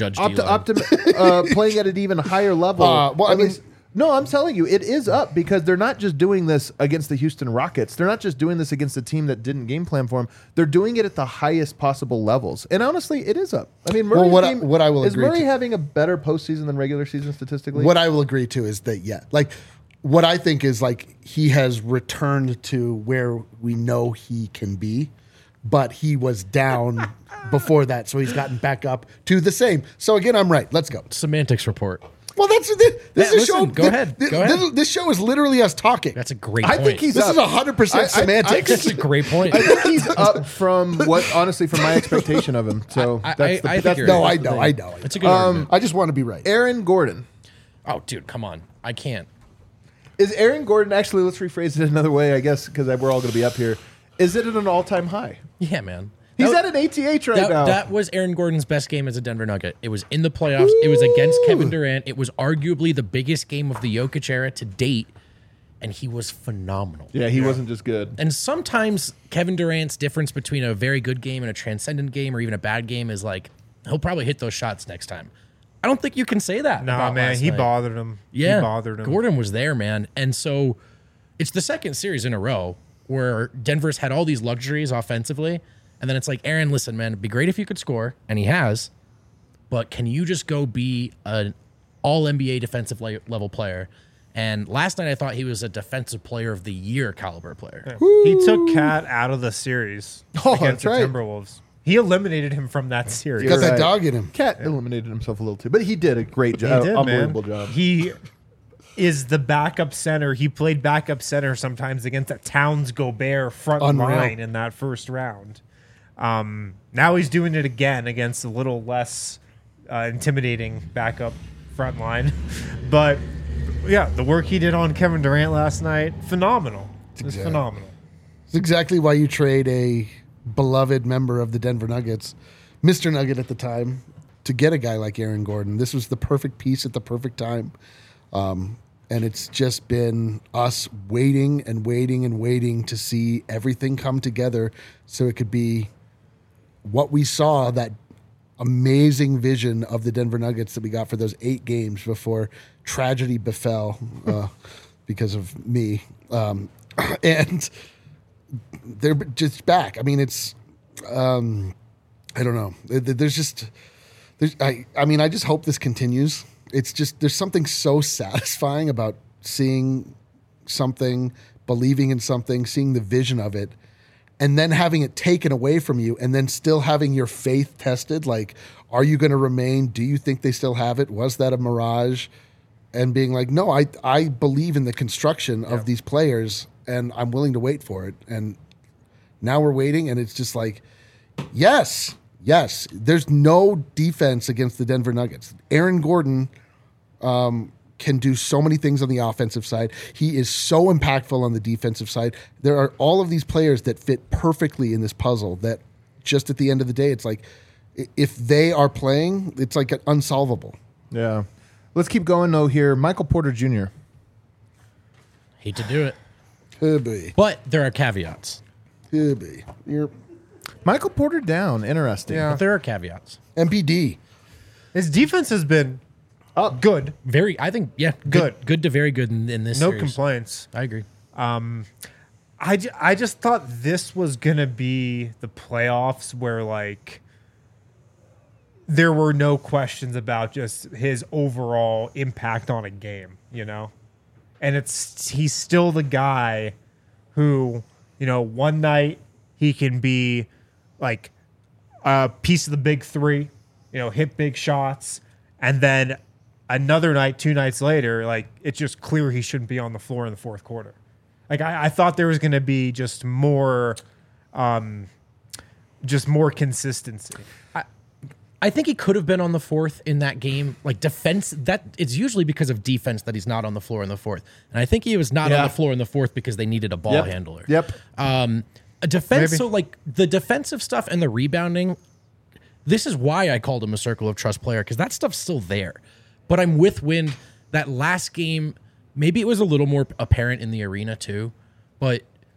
playing at an even higher level. No, I'm telling you, it is up because they're not just doing this against the Houston Rockets. They're not just doing this against a team that didn't game plan for them. They're doing it at the highest possible levels. And honestly, it is up. I mean, Murray's what I will is agree Murray to- having a better postseason than regular season statistically? What I will agree to is that, what I think is he has returned to where we know he can be, but he was down before that, so he's gotten back up to the same. So again, I'm right. Let's go. Semantics report. Well, this is a show. Go ahead. This show is literally us talking. That's a great I point. think he's This up. is 100% semantics. That's a great point. I think he's up from honestly, from my expectation of him. So I think you're No, right. I know. It's a good argument. I just want to be right. Aaron Gordon. Oh, dude, come on. I can't. Is Aaron Gordon, actually, let's rephrase it another way, I guess, because we're all going to be up here. Is it at an all-time high? Yeah, man. He's at an ATH right now. That was Aaron Gordon's best game as a Denver Nugget. It was in the playoffs. It was against Kevin Durant. It was arguably the biggest game of the Jokic era to date, and he was phenomenal. Yeah, he wasn't just good. And sometimes Kevin Durant's difference between a very good game and a transcendent game or even a bad game is he'll probably hit those shots next time. I don't think you can say that. Nah, about man, last he night. bothered him. Yeah, He bothered him. Gordon was there, man. And so it's the second series in a row where Denver's had all these luxuries offensively. And then it's like, Aaron, listen, man, it'd be great if you could score. And he has. But can you just go be an all-NBA defensive level player? And last night I thought he was a defensive player of the year caliber player. He took Cat out of the series Oh, against that's right. the Timberwolves. He eliminated him from that series. Got that right. dog in him. Cat eliminated himself a little too, but he did a great He job. did, Unbelievable man. job. He is the backup center. He played backup center sometimes against a Towns Gobert front Unreal. line in that first round. Now he's doing it again against a little less intimidating backup front line. But yeah, the work he did on Kevin Durant last night, phenomenal. It was phenomenal. It's exactly why you trade a beloved member of the Denver Nuggets, Mr. Nugget at the time, to get a guy like Aaron Gordon. This was the perfect piece at the perfect time. And it's just been us waiting and waiting and waiting to see everything come together so it could be what we saw that amazing vision of the Denver Nuggets that we got for those 8 games before tragedy befell because of me. And they're just back. I mean, it's, I don't know. I just hope this continues. It's just, there's something so satisfying about seeing something, believing in something, seeing the vision of it, and then having it taken away from you, and then still having your faith tested. Like, are you going to remain? Do you think they still have it? Was that a mirage? And being like, no, I believe in the construction of these players, and I'm willing to wait for it. And now we're waiting, and it's just like, yes. There's no defense against the Denver Nuggets. Aaron Gordon can do so many things on the offensive side. He is so impactful on the defensive side. There are all of these players that fit perfectly in this puzzle that just at the end of the day, it's like, if they are playing, it's like unsolvable. Yeah. Let's keep going, though, here. Michael Porter Jr. Hate to do it. Could be. But there are caveats. Could be. Michael Porter down. Interesting. Yeah. But there are caveats. MPD. His defense has been good. Very, I think, yeah, good to very good in this No series. complaints. I agree. I just thought this was going to be the playoffs where, like, there were no questions about just his overall impact on a game, you know? And he's still the guy who, you know, one night he can be like a piece of the big 3, you know, hit big shots. And then another night, 2 nights later, like, it's just clear he shouldn't be on the floor in the fourth quarter. Like, I thought there was going to be just more consistency. I think he could have been on the fourth in that game. Like, defense, that it's usually because of defense that he's not on the floor in the fourth. And I think he was not on the floor in the fourth because they needed a ball handler. Yep. A defense, Maybe. so like the defensive stuff and the rebounding, this is why I called him a circle of trust player, because that stuff's still there. But I'm with Wind. That last game, maybe it was a little more apparent in the arena too, but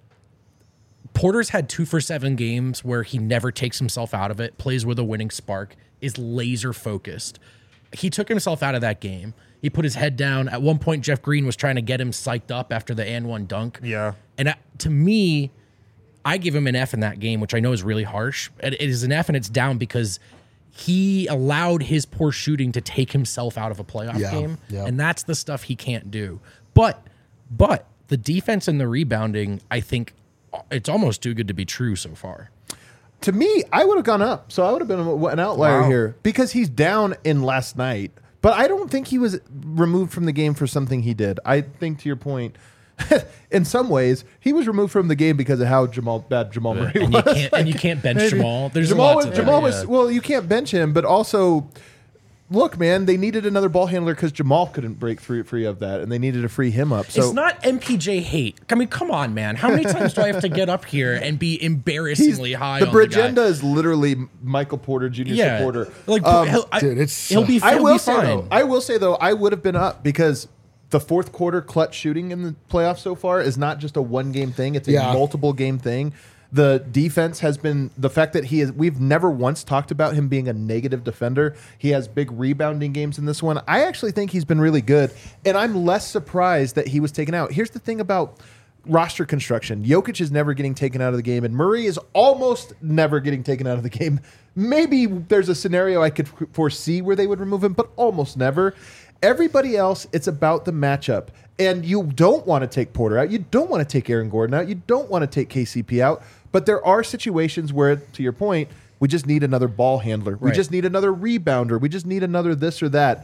Porter's had 2 for 7 games where he never takes himself out of it, plays with a winning spark, is laser focused. He took himself out of that game. He put his head down. At one point, Jeff Green was trying to get him psyched up after the and one dunk. Yeah. And to me, I give him an F in that game, which I know is really harsh. It is an F, and it's down because he allowed his poor shooting to take himself out of a playoff game. Yeah. And that's the stuff he can't do. But the defense and the rebounding, I think it's almost too good to be true so far. To me, I would have gone up. So I would have been an outlier Wow. here because he's down in last night. But I don't think he was removed from the game for something he did. I think, to your point, in some ways, he was removed from the game because of how bad Jamal Murray And was. you can't bench Jamal. There's Jamal lots was, of Jamal that, was yeah. well, you can't bench him, but also, look, man, they needed another ball handler because Jamal couldn't break free of that, and they needed to free him up. So It's not MPJ hate. I mean, come on, man. How many times do I have to get up here and be embarrassingly high the on the guy? Bragenda is literally Michael Porter Jr. supporter. Like, Dude, he'll be I will say fine. though, I would have been up because the fourth quarter clutch shooting in the playoffs so far is not just a 1-game thing; it's a multiple game thing. The defense has been the fact that we've never once talked about him being a negative defender. He has big rebounding games in this one. I actually think he's been really good, and I'm less surprised that he was taken out. Here's the thing about roster construction. Jokic is never getting taken out of the game, and Murray is almost never getting taken out of the game. Maybe there's a scenario I could foresee where they would remove him, but almost never. Everybody else, it's about the matchup. And you don't want to take Porter out. You don't want to take Aaron Gordon out. You don't want to take KCP out. But there are situations where, to your point, we just need another ball handler. We Right. just need another rebounder. We just need another this or that.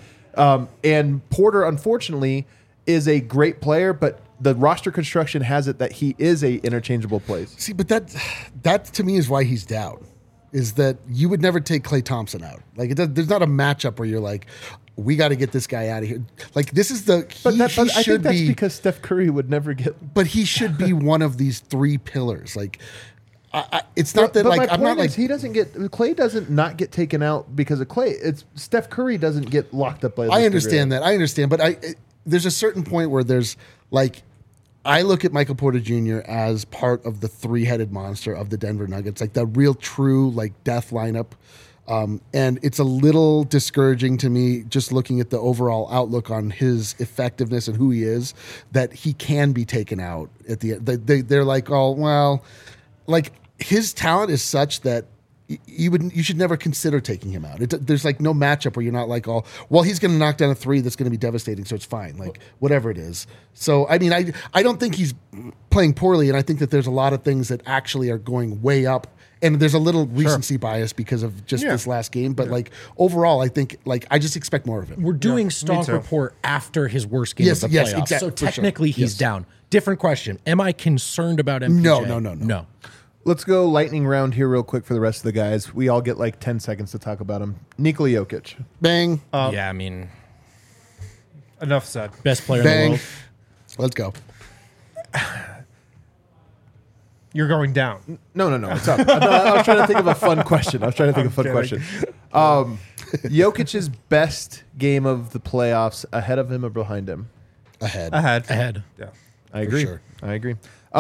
And Porter, unfortunately, is a great player, but the roster construction has it that he is a interchangeable place. See, but that to me is why he's down. Is that you would never take Klay Thompson out? Like, there's not a matchup where you're like, we got to get this guy out of here. Like, this is the But I should think that's be, because Steph Curry would never get. but he should be one of these 3 pillars. Like, it's not that But like my I'm point not like is he doesn't get Clay doesn't not get taken out because of Clay. It's Steph Curry doesn't get locked up by. I understand that. I understand, but there's a certain point where there's like I look at Michael Porter Jr. as part of the 3-headed monster of the Denver Nuggets, like the real true like death lineup. And it's a little discouraging to me just looking at the overall outlook on his effectiveness and who he is, that he can be taken out at the end. They're like, oh, well, like his talent is such that you should never consider taking him out. There's like no matchup where you're not like, oh, well, he's going to knock down a three that's going to be devastating, so it's fine. Like whatever it is. So I mean, I don't think he's playing poorly, and I think that there's a lot of things that actually are going way up. And there's a little recency bias because of just this last game, but like overall, I think like I just expect more of him. We're doing Stonk Report after his worst game of the playoffs, exactly, so for sure. technically he's down. Different question: am I concerned about MPJ? No. Let's go lightning round here real quick for the rest of the guys. We all get like 10 seconds to talk about him. Nikola Jokic. Bang. Yeah, I mean, Enough said. best player in Bang. the world. Let's go. You're going down. No, it's up. I was trying to think of a fun question. Jokic's best game of the playoffs, ahead of him or behind him? Ahead. Ahead. Yeah. I agree. sure. I agree.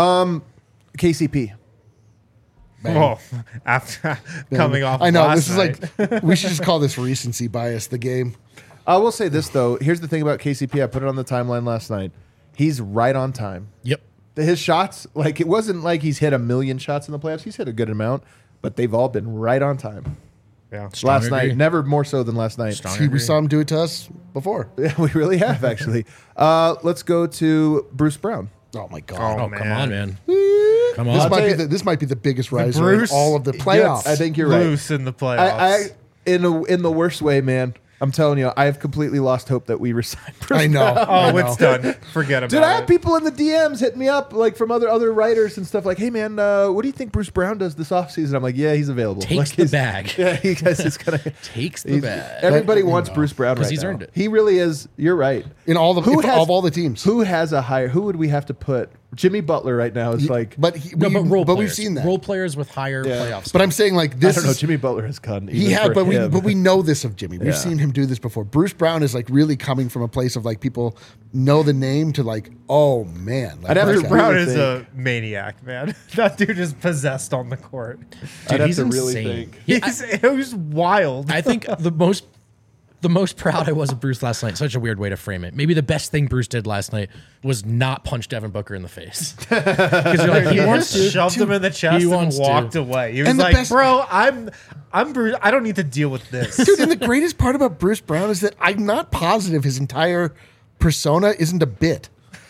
KCP. Bang. Oh, after coming off. I know. last This is night. like, we should just call this recency bias, the game. I will say this, though. Here's the thing about KCP. I put it on the timeline last night. He's right on time. Yep. His shots, like, it wasn't like he's hit a million shots in the playoffs. He's hit a good amount, but they've all been right on time. Yeah. Last agree. night, never more so than last night. Strong We agree. saw him do it to us before. Yeah, we really have, actually. Let's go to Bruce Brown. Oh my God. Oh, come on, man. Come This on. this might be the biggest riser Bruce- in all of the playoffs. I think you're right. Loose in the playoffs. In the worst way, man. I'm telling you, I have completely lost hope that we resign Bruce I know. Brown. I Oh, know. it's done. Forget about Dude, I it. have people in the DMs hitting me up, like from other writers and stuff, like, "Hey, man, what do you think Bruce Brown does this offseason?" I'm like, "Yeah, he's available. Takes Like, the he's- bag. Yeah, he guys is gonna Takes the he's- bag. Everybody wants Bruce Brown 'Cause right he's now. earned it. He really is. You're right. In all the of all the teams. Who has a higher? Who would we have to put? Jimmy Butler right now is like. But Role but players. we've seen that. Role players with higher playoffs. But I'm saying like I this. don't know. is- Jimmy Butler has gone. He even had, for but him. we know this of Jimmy. We've Yeah. seen him do this before. Bruce Brown is like really coming from a place of like people know the name to like, oh man, like, I'd have to Bruce Bruce Brown really is think. a maniac, man. That dude is possessed on the court. I'd have he's to really insane. think. Yeah, It was wild. I think the most proud I was of Bruce last night. Such a weird way to frame it. Maybe the best thing Bruce did last night was not punch Devin Booker in the face. Because you're like, he wants to. shoved him in the chest He and wants to. walked away. He was And the like, best- "Bro, I'm Bruce. I don't need to deal with this." Dude, and the greatest part about Bruce Brown is that I'm not positive his entire persona isn't a bit.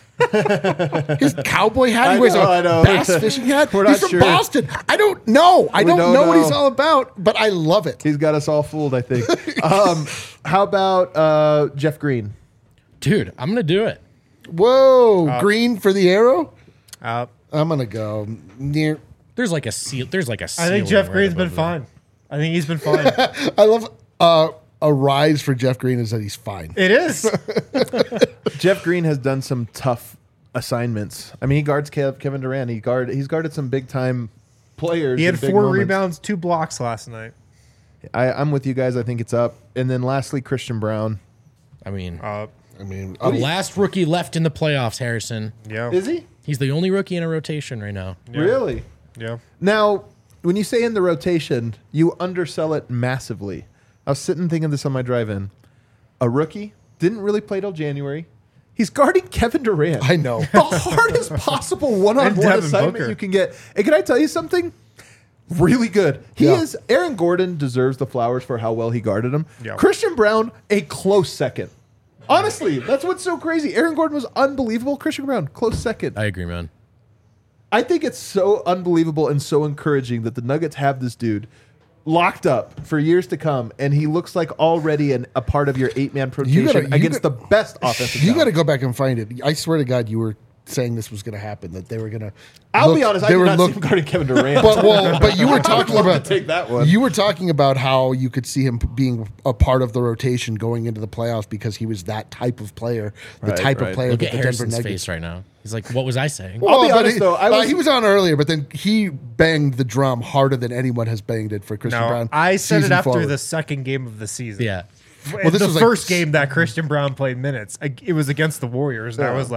His cowboy hat, he wears I a know. bass fishing hat. We're He's not from sure. Boston. I don't know. I don't don't know what he's know. all about, but I love it. He's got us all fooled, I think. How about Jeff Green? Dude, I'm going to do it. Whoa, green for the arrow. Uh, I'm gonna go near. There's like a seal. There's like a I ceiling think Jeff right Green's been above fine. I think he's been fine. I love a rise for Jeff Green is that he's fine. It is. Jeff Green has done some tough assignments. I mean, he guards Kevin Durant. He's guarded some big time players. He had in big 4 moments. rebounds, 2 blocks last night. I'm with you guys. I think it's up. And then lastly, Christian Brown. I mean, I mean, the last rookie left in the playoffs, Harrison. Yeah. Is he? He's the only rookie in a rotation right now. Really? Yeah. Now, when you say in the rotation, you undersell it massively. I was sitting thinking this on my drive-in. A rookie didn't really play till January. He's guarding Kevin Durant. I know. The hardest possible one-on-one Devin assignment Booker. you can get. And can I tell you something? Really good. Yeah. Aaron Gordon deserves the flowers for how well he guarded him. Yeah. Christian Brown, a close second. Honestly, that's what's so crazy. Aaron Gordon was unbelievable. Christian Brown, close second. I agree, man. I think it's so unbelievable and so encouraging that the Nuggets have this dude locked up for years to come, and he looks like already a part of your 8-man rotation against the best offensive You talent. got to go back and find it. I swear to God, you were saying this was going to happen. That they were going to. I'll be honest, I did not see him guarding Kevin Durant. But you were talking love to about take that one. You were talking about how you could see him being a part of the rotation going into the playoffs because he was that type of player, the Right, type right. of player Look that at the Denver Harrison's Nuggets. face right now. He's like, what was I saying? I'll be but honest, though, he was on earlier, but then he banged the drum harder than anyone has banged it for Christian No, Brown. I said it season after forward. the second game of the season. Yeah. this the was like first game that Christian Brown played minutes, it was against the Warriors, and I was like,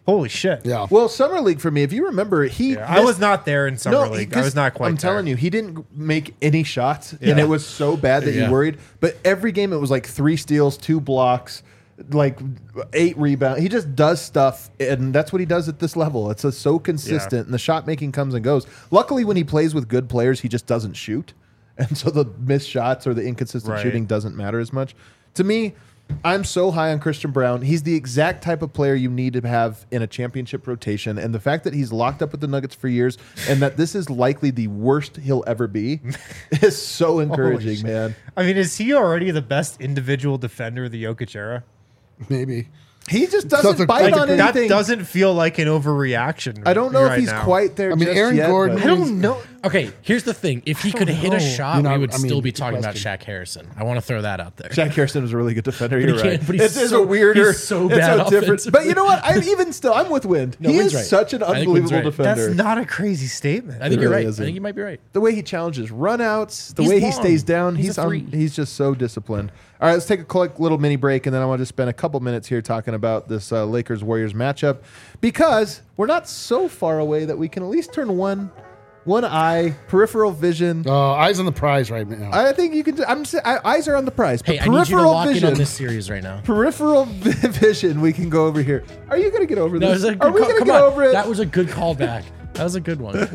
Holy shit. Yeah. Well, Summer League for me, if you remember, I was not there in Summer League. I was not quite I'm telling there. you, he didn't make any shots, and it was so bad that you worried. But every game, it was like 3 steals, 2 blocks, like 8 rebounds. He just does stuff, and that's what he does at this level. It's so consistent, and the shot making comes and goes. Luckily, when he plays with good players, he just doesn't shoot, and so the missed shots or the inconsistent shooting doesn't matter as much. To me, I'm so high on Christian Braun. He's the exact type of player you need to have in a championship rotation. And the fact that he's locked up with the Nuggets for years and that this is likely the worst he'll ever be is so encouraging, man. I mean, is he already the best individual defender of the Jokic era? Maybe. He just doesn't bite like on That anything. doesn't feel like an overreaction. I don't know right if he's now. quite there. I mean, just Aaron yet, Gordon- but- I don't know. Okay, here's the thing. If he could hit a shot, You know, we would I mean, still be good talking about question. Shaq Harrison. I want to throw that out there. Shaq Harrison was a really good defender. You're he right. can't- but he's It's so- a weirder. he's so it's bad a different. offensively. But you know what? I'm with Wind. No, he Wind's is right. such an I think Wind's unbelievable right. defender. That's not a crazy statement. I think It you're really right. isn't. I think you might be right. The way he challenges runouts, the He's way he long. stays down, He's a three. he's just so disciplined. All right, let's take a quick little mini break, and then I want to spend a couple minutes here talking about this Lakers-Warriors matchup because we're not so far away that we can at least turn one eye, peripheral vision. Eyes on the prize right now. I think you can. Eyes are on the prize. But Hey, I need you to peripheral lock in vision. on this series right now. Peripheral vision. We can go over here. Are you going to get over That this? was a good Are we call. going to Come get on. over it? That was a good callback. That was a good one.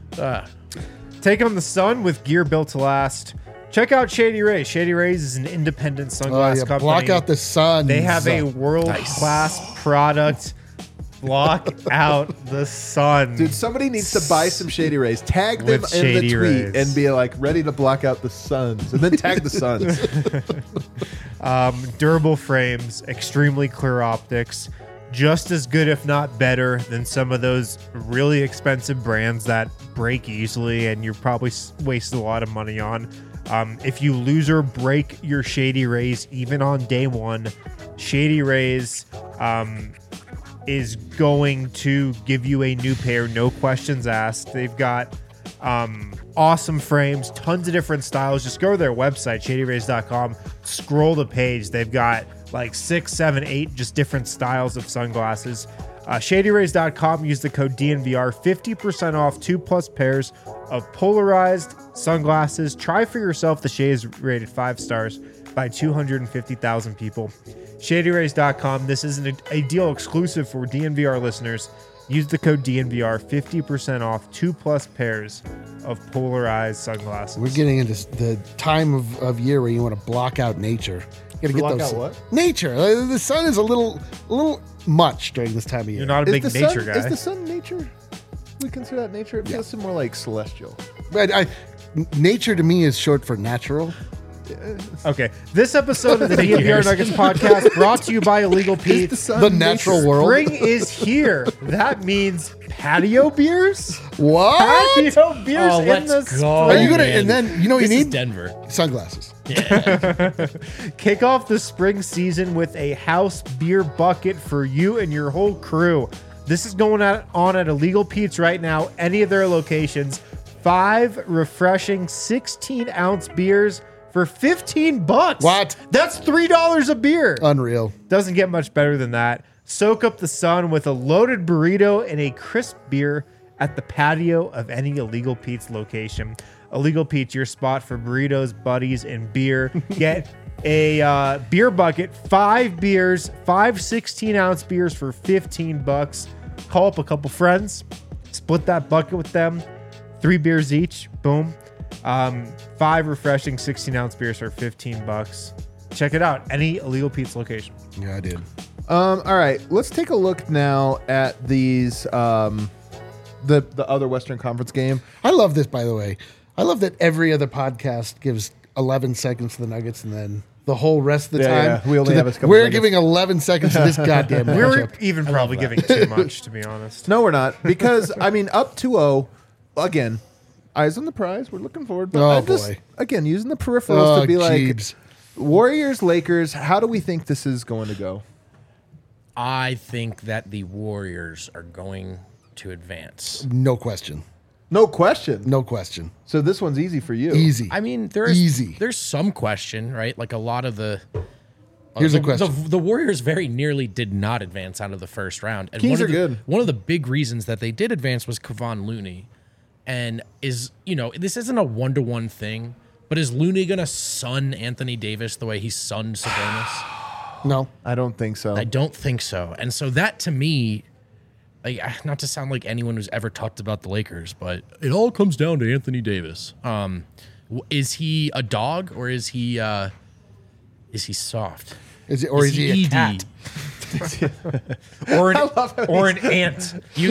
Take on the sun with gear built to last. Check out Shady Rays. Shady Rays is an independent sunglass company. Block out the sun. They have a world-class product. Block out the sun. Dude, somebody needs to buy some Shady Rays. Tag them With in the Shady tweet Rays. and be like, ready to block out the suns. And then tag the suns. Durable frames, extremely clear optics, just as good, if not better, than some of those really expensive brands that break easily and you're probably wasting a lot of money on. If you lose or break your Shady Rays, even on day one, Shady Rays is going to give you a new pair, no questions asked. They've got awesome frames, tons of different styles. Just go to their website, shadyrays.com, scroll the page. They've got like 6, 7, 8 just different styles of sunglasses. Shadyrays.com, use the code DNVR, 50% off 2+ pairs of polarized sunglasses. Try for yourself. The shade is rated 5 stars by 250,000 people. Shadyrays.com, this is a deal exclusive for DNVR listeners. Use the code DNVR, 50% off 2+ pairs of polarized sunglasses. We're getting into the time of year where you want to block out nature. You gotta Block out what? Nature. The sun is a little much during this time of year. You're not a big Is the nature sun, guy. Is the sun nature? We consider that nature? It feels more like celestial. But nature to me is short for natural. Okay, this episode of the DNVR Nuggets podcast brought to you by Illegal Pete. The natural world. Spring is here. That means patio beers. What? Patio beers Oh, in let's the go. spring. Are you gonna? man. And then you know what This you is need Denver. sunglasses. Kick off the spring season with a house beer bucket for you and your whole crew. This is going on at Illegal Pete's right now, any of their locations. 5 refreshing 16-ounce beers for $15. What? That's $3 a beer. Unreal. Doesn't get much better than that. Soak up the sun with a loaded burrito and a crisp beer at the patio of any Illegal Pete's location. Illegal Pete's, your spot for burritos, buddies, and beer. Get a beer bucket, 5 beers, 5 16-ounce beers for $15. Call up a couple friends, split that bucket with them, 3 beers each. Boom. 5 refreshing 16-ounce beers for $15. Check it out. Any Illegal Pete's location. Yeah, I did. All right, let's take a look now at these the other Western Conference game. I love this, by the way. I love that every other podcast gives 11 seconds to the Nuggets and then the whole rest of the Yeah, time. yeah. We only to have the- a couple We're seconds. giving 11 seconds to this goddamn We're matchup. even probably giving too much, to be honest. No, we're not, because I mean, up 2-0 again. Eyes on the prize. We're looking forward. But Oh, I'm just, boy. again, using the peripherals Oh, to be like Jeebs. Warriors, Lakers. How do we think this is going to go? I think that the Warriors are going to advance. No question. No question. No question. So this one's easy for you. Easy. I mean, there's Easy. There's some question, right? Like a lot of the Here's a question. The Warriors very nearly did not advance out of the first round. And Kings are good. One of the big reasons that they did advance was Kevon Looney. And this isn't a 1-to-1 thing, but is Looney going to sun Anthony Davis the way he sunned Sabonis? No. I don't think so. I don't think so. And so that to me, not to sound like anyone who's ever talked about the Lakers, but it all comes down to Anthony Davis. Is he a dog or is he soft? Is he a ED? cat? or an ant. You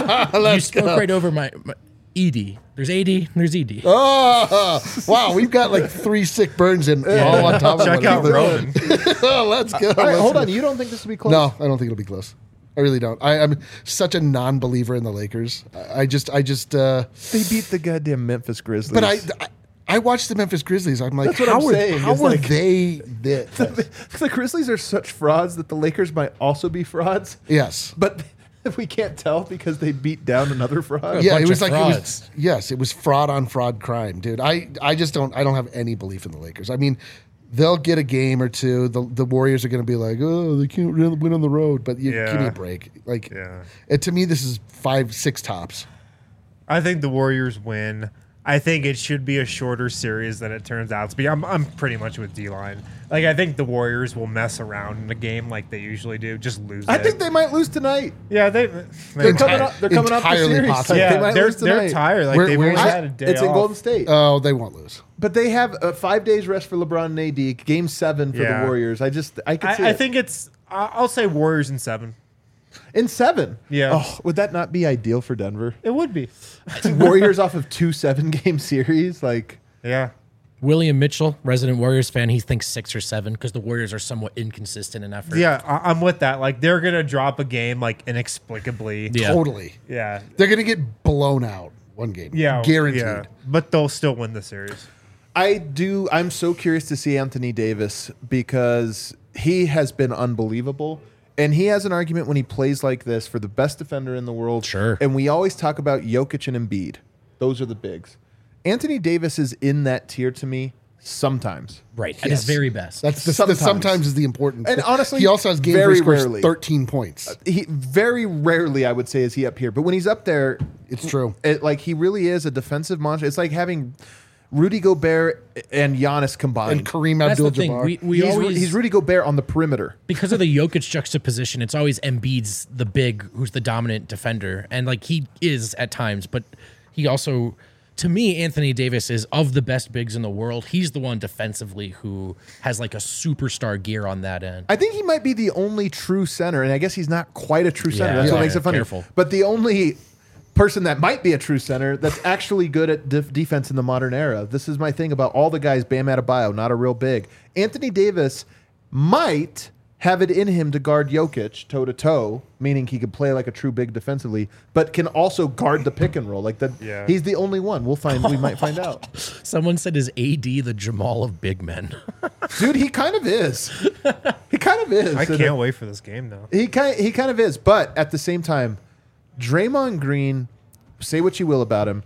spoke right over my ED. There's AD and there's ED. Oh, wow. We've got like 3 sick burns in all on top of Check one out another. Roman. Oh, let's go. All right, Let's hold go. on. You don't think this will be close? No, I don't think it'll be close. I really don't. I'm such a non-believer in the Lakers. I just. They beat the goddamn Memphis Grizzlies. But I watched the Memphis Grizzlies. I'm like, That's what I'm saying. How It's are like- they this? the Grizzlies are such frauds that the Lakers might also be frauds. Yes. But we can't tell because they beat down another fraud. Yeah, bunch it was of like frauds. it was fraud on fraud crime, dude. I just don't have any belief in the Lakers. I mean, they'll get a game or two. The Warriors are going to be like, oh, they can't really win on the road, but give me Yeah. a break. Like, Yeah. to me, this is 5-6 tops. I think the Warriors win. I think it should be a shorter series than it turns out to be. I'm pretty much with D-Line. Like, I think the Warriors will mess around in a game like they usually do, just lose I it. think they might lose tonight. Yeah, They're coming up. They're coming up the Entirely series. possible. Like, yeah, they might they're lose tonight. tired. Like, Where- they've where's only it? had a day It's in off. Golden State. Oh, they won't lose. But they have 5 days rest for LeBron and AD. Game 7 for Yeah. the Warriors. I could see I it. think I'll say Warriors in 7. In 7. Yeah. Oh, would that not be ideal for Denver? It would be. Warriors off of 2 7-game series. Like, Yeah. William Mitchell, resident Warriors fan, he thinks 6 or 7 because the Warriors are somewhat inconsistent in effort. Yeah, I'm with that. Like, they're going to drop a game, like, inexplicably. Yeah. Totally. Yeah. They're going to get blown out one game. Yeah. Guaranteed. Yeah. But they'll still win the series. I'm so curious to see Anthony Davis because he has been unbelievable. And he has an argument when he plays like this for the best defender in the world. Sure. And we always talk about Jokic and Embiid. Those are the bigs. Anthony Davis is in that tier to me sometimes. Right. At his Yes. very best. That's Sometimes. sometimes is the important. And honestly, he also has games very where he scores rarely. 13 points. He very rarely, I would say, is he up here. But when he's up there, It's true. he really is a defensive monster. It's like having Rudy Gobert and Giannis combined. And Kareem That's the thing. Abdul-Jabbar. He's Rudy Gobert on the perimeter. Because of the Jokic juxtaposition, it's always Embiid's the big who's the dominant defender. And like he is at times, but he also, to me, Anthony Davis is of the best bigs in the world. He's the one defensively who has like a superstar gear on that end. I think he might be the only true center, and I guess he's not quite a true center. Yeah. That's what Yeah. makes it funny. Careful. But the only person that might be a true center that's actually good at defense in the modern era. This is my thing about all the guys, Bam Adebayo, not a real big. Anthony Davis might have it in him to guard Jokic toe-to-toe, meaning he could play like a true big defensively, but can also guard the pick and roll. Like that, Yeah. he's the only one. We might find out. Someone said, is AD the Jamal of big men? Dude, he kind of is. He kind of is. I can't wait for this game, though. He kind of is, but at the same time, Draymond Green, say what you will about him,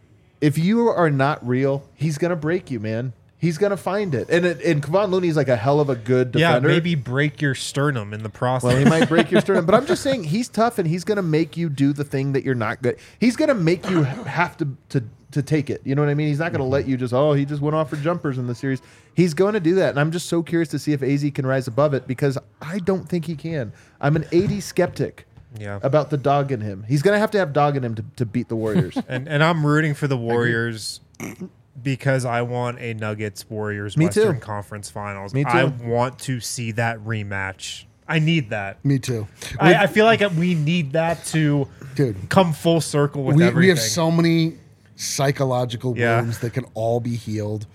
if you are not real, he's gonna break you, man. He's gonna find it. And Kevon Looney's like a hell of a good defender. Yeah, maybe break your sternum in the process. Well, he might break your sternum, but I'm just saying he's tough and he's gonna make you do the thing that you're not good. He's gonna make you have to take it. You know what I mean? He's not gonna let you he just went off for jumpers in the series. He's going to do that, and I'm just so curious to see if AZ can rise above it because I don't think he can. I'm an AD skeptic. Yeah. About the dog in him. He's going to have dog in him to beat the Warriors. and I'm rooting for the Warriors because I want a Nuggets Warriors Me too. Western Conference Finals. Me too. I want to see that rematch. I need that. Me too. I feel like we need that to Dude. come full circle with everything. We have so many psychological Yeah. wounds that can all be healed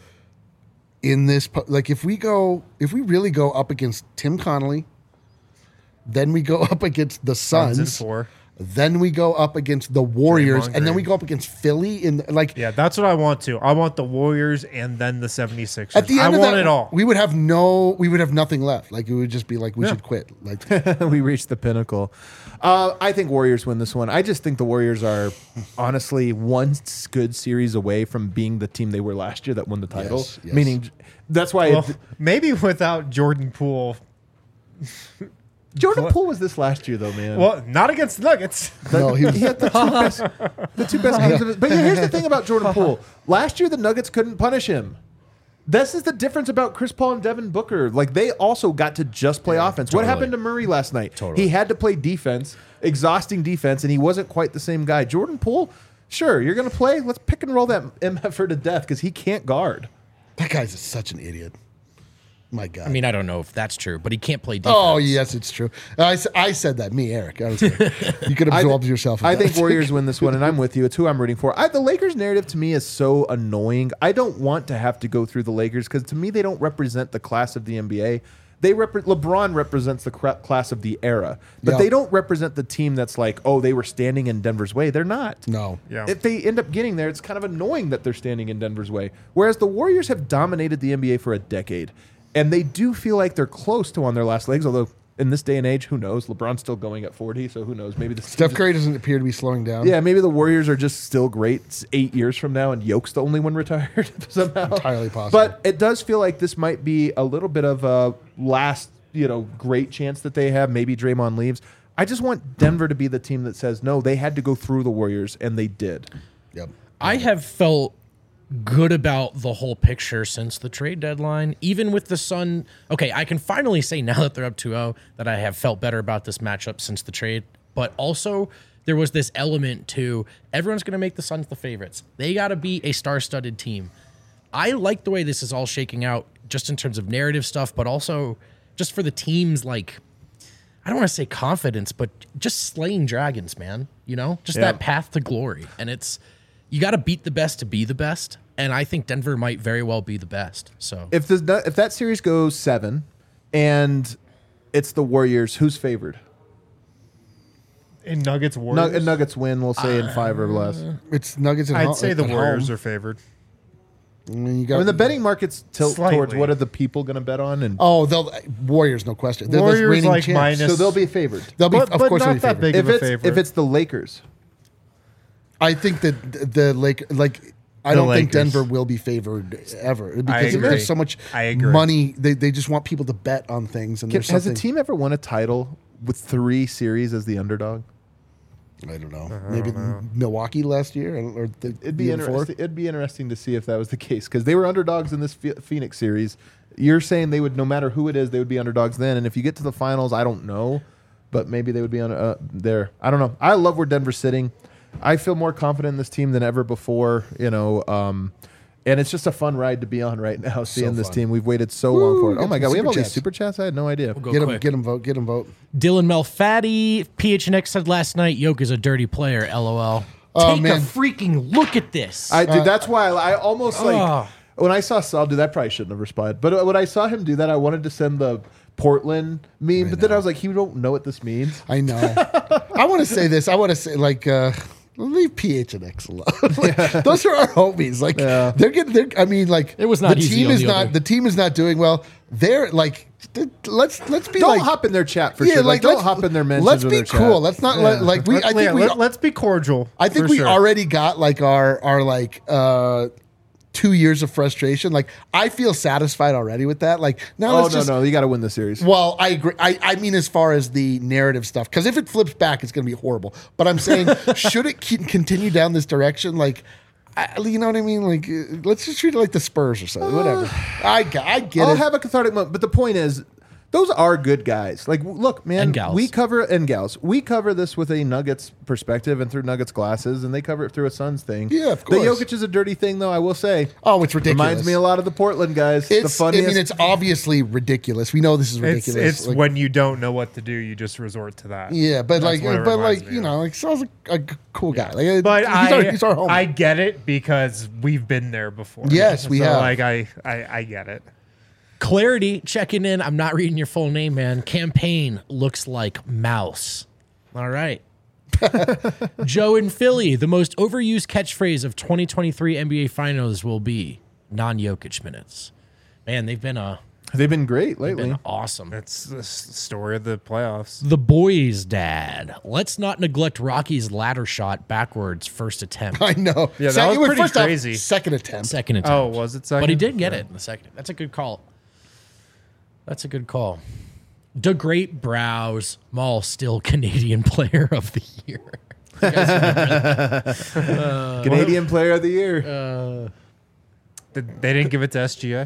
in this. Like if we really go up against Tim Connolly, then we go up against the Suns in Suns, 4. then we go up against the Warriors, Draymond and then we Green. go up against Philly. In like Yeah, that's what I want to. I want the Warriors and then the 76ers. at the end I of want that, it all. we would have nothing left. Like it would just be like we should quit. Like We reached the pinnacle. I think Warriors win this one. I just think the Warriors are honestly one good series away from being the team they were last year that won the title. Yes, yes. Meaning, that's why Well, maybe without Jordan Poole Jordan Poole was this last year, though, man. Well, not against the Nuggets. No, he was. He had the two best games of his. But here's the thing about Jordan Poole. Last year, the Nuggets couldn't punish him. This is the difference about Chris Paul and Devin Booker. Like, they also got to just play offense. What happened to Murray last night? He had to play defense, exhausting defense, and he wasn't quite the same guy. Jordan Poole, sure, you're going to play. Let's pick and roll that MFer to death because he can't guard. That guy's such an idiot. My God. I mean, I don't know if that's true, but he can't play defense. Oh, yes, it's true. I said that. Me, Eric. I was you could absorb yourself. I think Warriors win this one, and I'm with you. It's who I'm rooting for. The Lakers narrative to me is so annoying. I don't want to have to go through the Lakers because to me they don't represent the class of the NBA. LeBron represents the class of the era, but they don't represent the team that's like, oh, they were standing in Denver's way. They're not. No. Yeah. If they end up getting there, it's kind of annoying that they're standing in Denver's way. Whereas the Warriors have dominated the NBA for a decade. And they do feel like they're close to on their last legs, although in this day and age, who knows? LeBron's still going at 40, so who knows? Maybe Steph Curry doesn't appear to be slowing down. Yeah, maybe the Warriors are just still great. It's 8 years from now, and Yoke's the only one retired somehow. Entirely possible. But it does feel like this might be a little bit of a last, great chance that they have. Maybe Draymond leaves. I just want Denver to be the team that says, no, they had to go through the Warriors, and they did. Yep. I have felt good about the whole picture since the trade deadline, even with the Sun. Okay, I can finally say now that they're up 2-0 that I have felt better about this matchup since the trade, but also there was this element to everyone's going to make the Suns the favorites. They got to be a star-studded team. I like the way this is all shaking out just in terms of narrative stuff, but also just for the teams, like, I don't want to say confidence, but just slaying dragons, man, just that path to glory. And you got to beat the best to be the best, and I think Denver might very well be the best. So If that series goes 7 and it's the Warriors, who's favored? In Nuggets Warriors? Nuggets win, we'll say, in 5 or less. It's Nuggets at I'd home. say the at Warriors home. are favored. I mean, The betting markets tilt Slightly. towards what are the people going to bet on, and they'll Warriors, no question. They're the Warriors reigning like champs. minus- so they'll be favored. They'll be, But of course, not they'll be that favored. big of a favorite. If it's the Lakers, I think that the I don't think Lakers. Denver will be favored ever because agree. there's so much I agree. money. They just want people to bet on things. And there's has a something, team ever won a title with 3 series as the underdog? I don't know. Maybe Milwaukee last year or It'd be interesting. It'd be interesting to see if that was the case because they were underdogs in this Phoenix series. You're saying they would, no matter who it is, they would be underdogs then. And if you get to the finals, I don't know, but maybe they would be on there. I don't know. I love where Denver's sitting. I feel more confident in this team than ever before. And it's just a fun ride to be on right now. Seeing this fun. team, we've waited so long for it. got Oh my some god, we have all super these chats. super chats. I had no idea. go Get them, quick. get them vote, get them vote. Dylan Malfatti, PHNX said last night, Yoke is a dirty player, LOL. Oh, Take man. a freaking look at this. Dude, that's why I almost Ugh. when I saw Saul do that, I probably shouldn't have responded. But when I saw him do that, I wanted to send the Portland meme. But then I was like, you don't know what this means. I know. I want to say this. I want to say leave PH and X alone. Those are our homies. They're getting. I mean, It was not the easy team on is the not. other. The team is not doing well. They're like. Let's be Don't like. hop in their chat for sure. Like, don't let's- hop in their mentions. Let's or be their cool. Chat. Let's not like we. I think we. let's be cordial. I think for we sure. already got like our 2 years of frustration. Like I feel satisfied already with that. Like now Oh let's just. no, you got to win the series. Well, I agree. I mean, as far as the narrative stuff, because if it flips back, it's going to be horrible. But I'm saying, should it continue down this direction? Like, you know what I mean? Like, let's just treat it like the Spurs or something. Whatever. I get I'll it. have a cathartic moment. But the point is, those are good guys. Like, look, man, And gals. we cover we cover this with a Nuggets perspective and through Nuggets glasses, and they cover it through a Suns thing. Yeah, of The course. Jokic is a dirty thing, though. I will say. Oh, it's ridiculous. Reminds me a lot of the Portland guys. The It's. funniest. I mean, it's obviously ridiculous. We know this is ridiculous. It's Like, when you don't know what to do, you just resort to that. yeah, but That's what it reminds me you of. know, like Sal's a cool guy. Like, But he's our homie. I get it because we've been there before. Yes, we have. Like I get it. Clarity checking in. I'm not reading your full name, man. Campaign looks like mouse. All right. Joe in Philly, the most overused catchphrase of 2023 NBA Finals will be non-Jokic minutes. Man, they've been great lately. been awesome. It's the story of the playoffs. The boys' dad. Let's not neglect Rocky's ladder shot backwards first attempt. I know. Yeah, that was it was pretty first off, crazy. second attempt. Second attempt. Oh, was it second? But he did get it in the second. That's a good call. That's a good call. The Great Browse Mall still Canadian Player of the Year. Canadian Player of the Year. They didn't give it to SGA.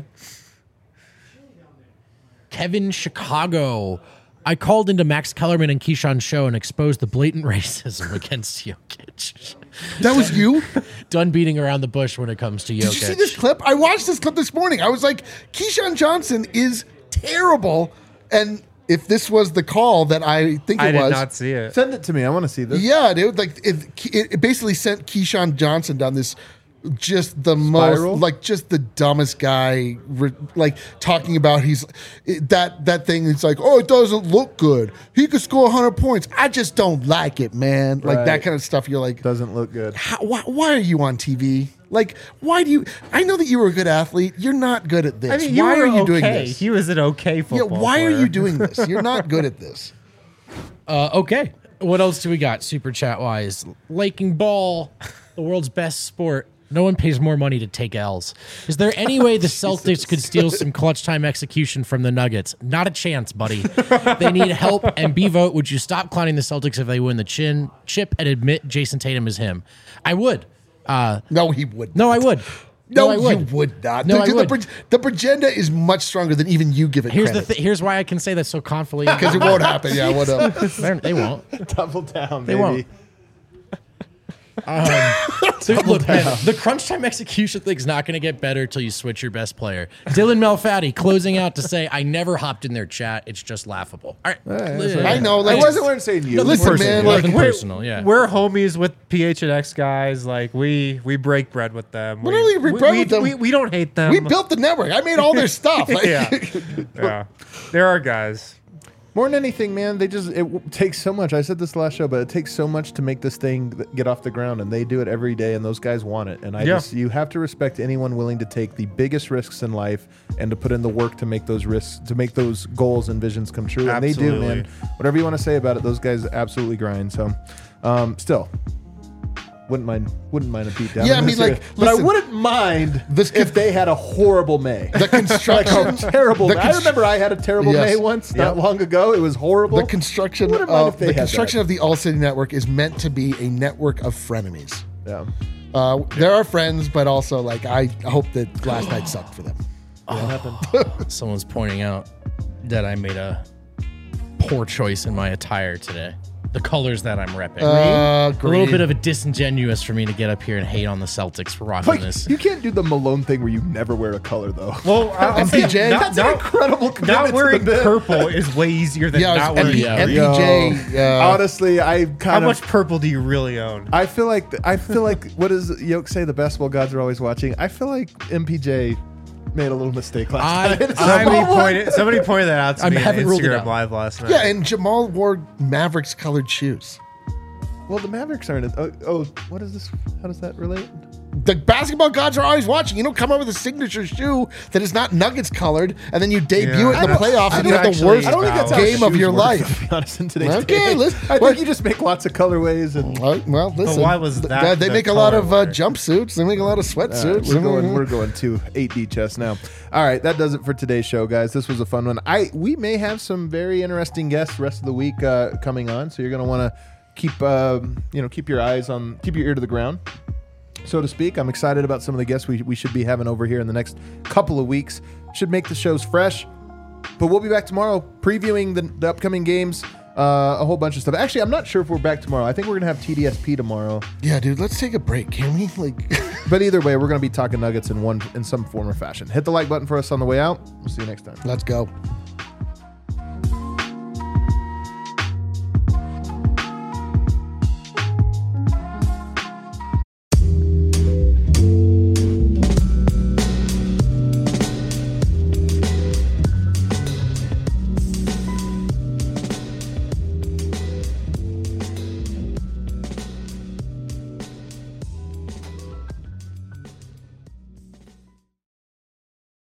Kevin Chicago. I called into Max Kellerman and Keyshawn's show and exposed the blatant racism against Jokic. That was you? Done beating around the bush when it comes to Jokic. Did you see this clip? I watched this clip this morning. I was like, Keyshawn Johnson is terrible. And if this was the call that I think it I did was. not see it. Send it to me. I want to see this. Yeah, dude. Like it basically sent Keyshawn Johnson down this just the Spiral? most like just the dumbest guy like talking about that thing. It's like, oh, it doesn't look good. He could score 100 points. I just don't like it, man. Like Right. that kind of stuff. You're like, Doesn't look good. why are you on TV? Like, why do you? I know that you were a good athlete. You're not good at this. I mean, why you were are you okay. doing this? He was an okay Yeah, football why are player. you doing this? You're not good at this. Okay. What else do we got super chat wise? Laking ball, the world's best sport. No one pays more money to take L's. Is there any way the Celtics could steal some clutch time execution from the Nuggets? Not a chance, buddy. They need help. And B-Vote, would you stop clowning the Celtics if they win the chip and admit Jason Tatum is him? I would. No, he would. No, I would. No, I would. you would not. No, I Dude, would. The Progenda is much stronger than even you give it Here's credit. Here's why I can say that so confidently. Because it won't happen. Yeah, what up? They won't. Double down, They baby. won't. Look, man, the crunch time execution thing's not going to get better till you switch your best player. Dylan Malfatti closing out to say, I never hopped in their chat. It's just laughable. All right. I know. I Like, wasn't saying you. Listen, personal. man. Nothing Like, personal. Yeah. We're homies with PHNX guys. Like we break bread with them. What do we break bread with them? We don't hate them. we built the network. I made all their stuff. Like, yeah. There are guys. More than anything, man, it takes so much. I said this last show, but it takes so much to make this thing get off the ground, and they do it every day, and those guys want it. And you have to respect anyone willing to take the biggest risks in life and to put in the work to make those risks, to make those goals and visions come true. And they do, Absolutely. man. Whatever you want to say about it, those guys absolutely grind. So, still. Wouldn't mind a beat down. Yeah, I mean, like, but I listen, wouldn't mind this if they had a horrible May. the construction. Terrible. the I remember I had a terrible Yes. May once, not long ago. It was horrible. The construction Wouldn't mind if of they the had construction that. of the All City Network is meant to be a network of frenemies. Yeah. There are friends, but also like I hope that last night sucked for them. Someone's pointing out that I made a poor choice in my attire today. The colors that I'm repping. A little bit of a disingenuous for me to get up here and hate on the Celtics for rocking Like, this. you can't do the Malone thing where you never wear a color, though. Well, I'll say MPJ? That's an incredible commitment not wearing to the bit. purple is way easier than Yeah, not wearing. yeah. MPJ. Honestly, I How kind much of. purple do you really own? I feel like what does Yoke say? The basketball gods are always watching. I feel like MPJ made a little mistake last night. Somebody pointed that out to me on haven't ruled it Instagram out. Live last night. Yeah, and Jamal wore Mavericks colored shoes. Well, the Mavericks aren't. What is this? How does that relate? The basketball gods are always watching. You don't come up with a signature shoe that is not Nuggets colored, and then you debut it in the playoffs and you have the actually- worst I don't think that's how game of shoes your work, life. To be honest, in today's Okay, day. listen, I what- think you just make lots of colorways and. Well, listen. why was that They the make a lot of color? jumpsuits. They make a lot of sweatsuits. We're going to 8D chess now. All right, that does it for today's show, guys. This was a fun one. We may have some very interesting guests rest of the week coming on, so you're going to want to keep your ear to the ground, so to speak. I'm excited about some of the guests we should be having over here in the next couple of weeks. Should make the shows fresh, but we'll be back tomorrow previewing the upcoming games. A whole bunch of stuff. Actually, I'm not sure if we're back tomorrow. I think we're gonna have TDSP tomorrow. Yeah, dude, let's take a break, can we? Like, But either way, we're gonna be talking Nuggets in some form or fashion. Hit the like button for us on the way out. We'll see you next time. let's go.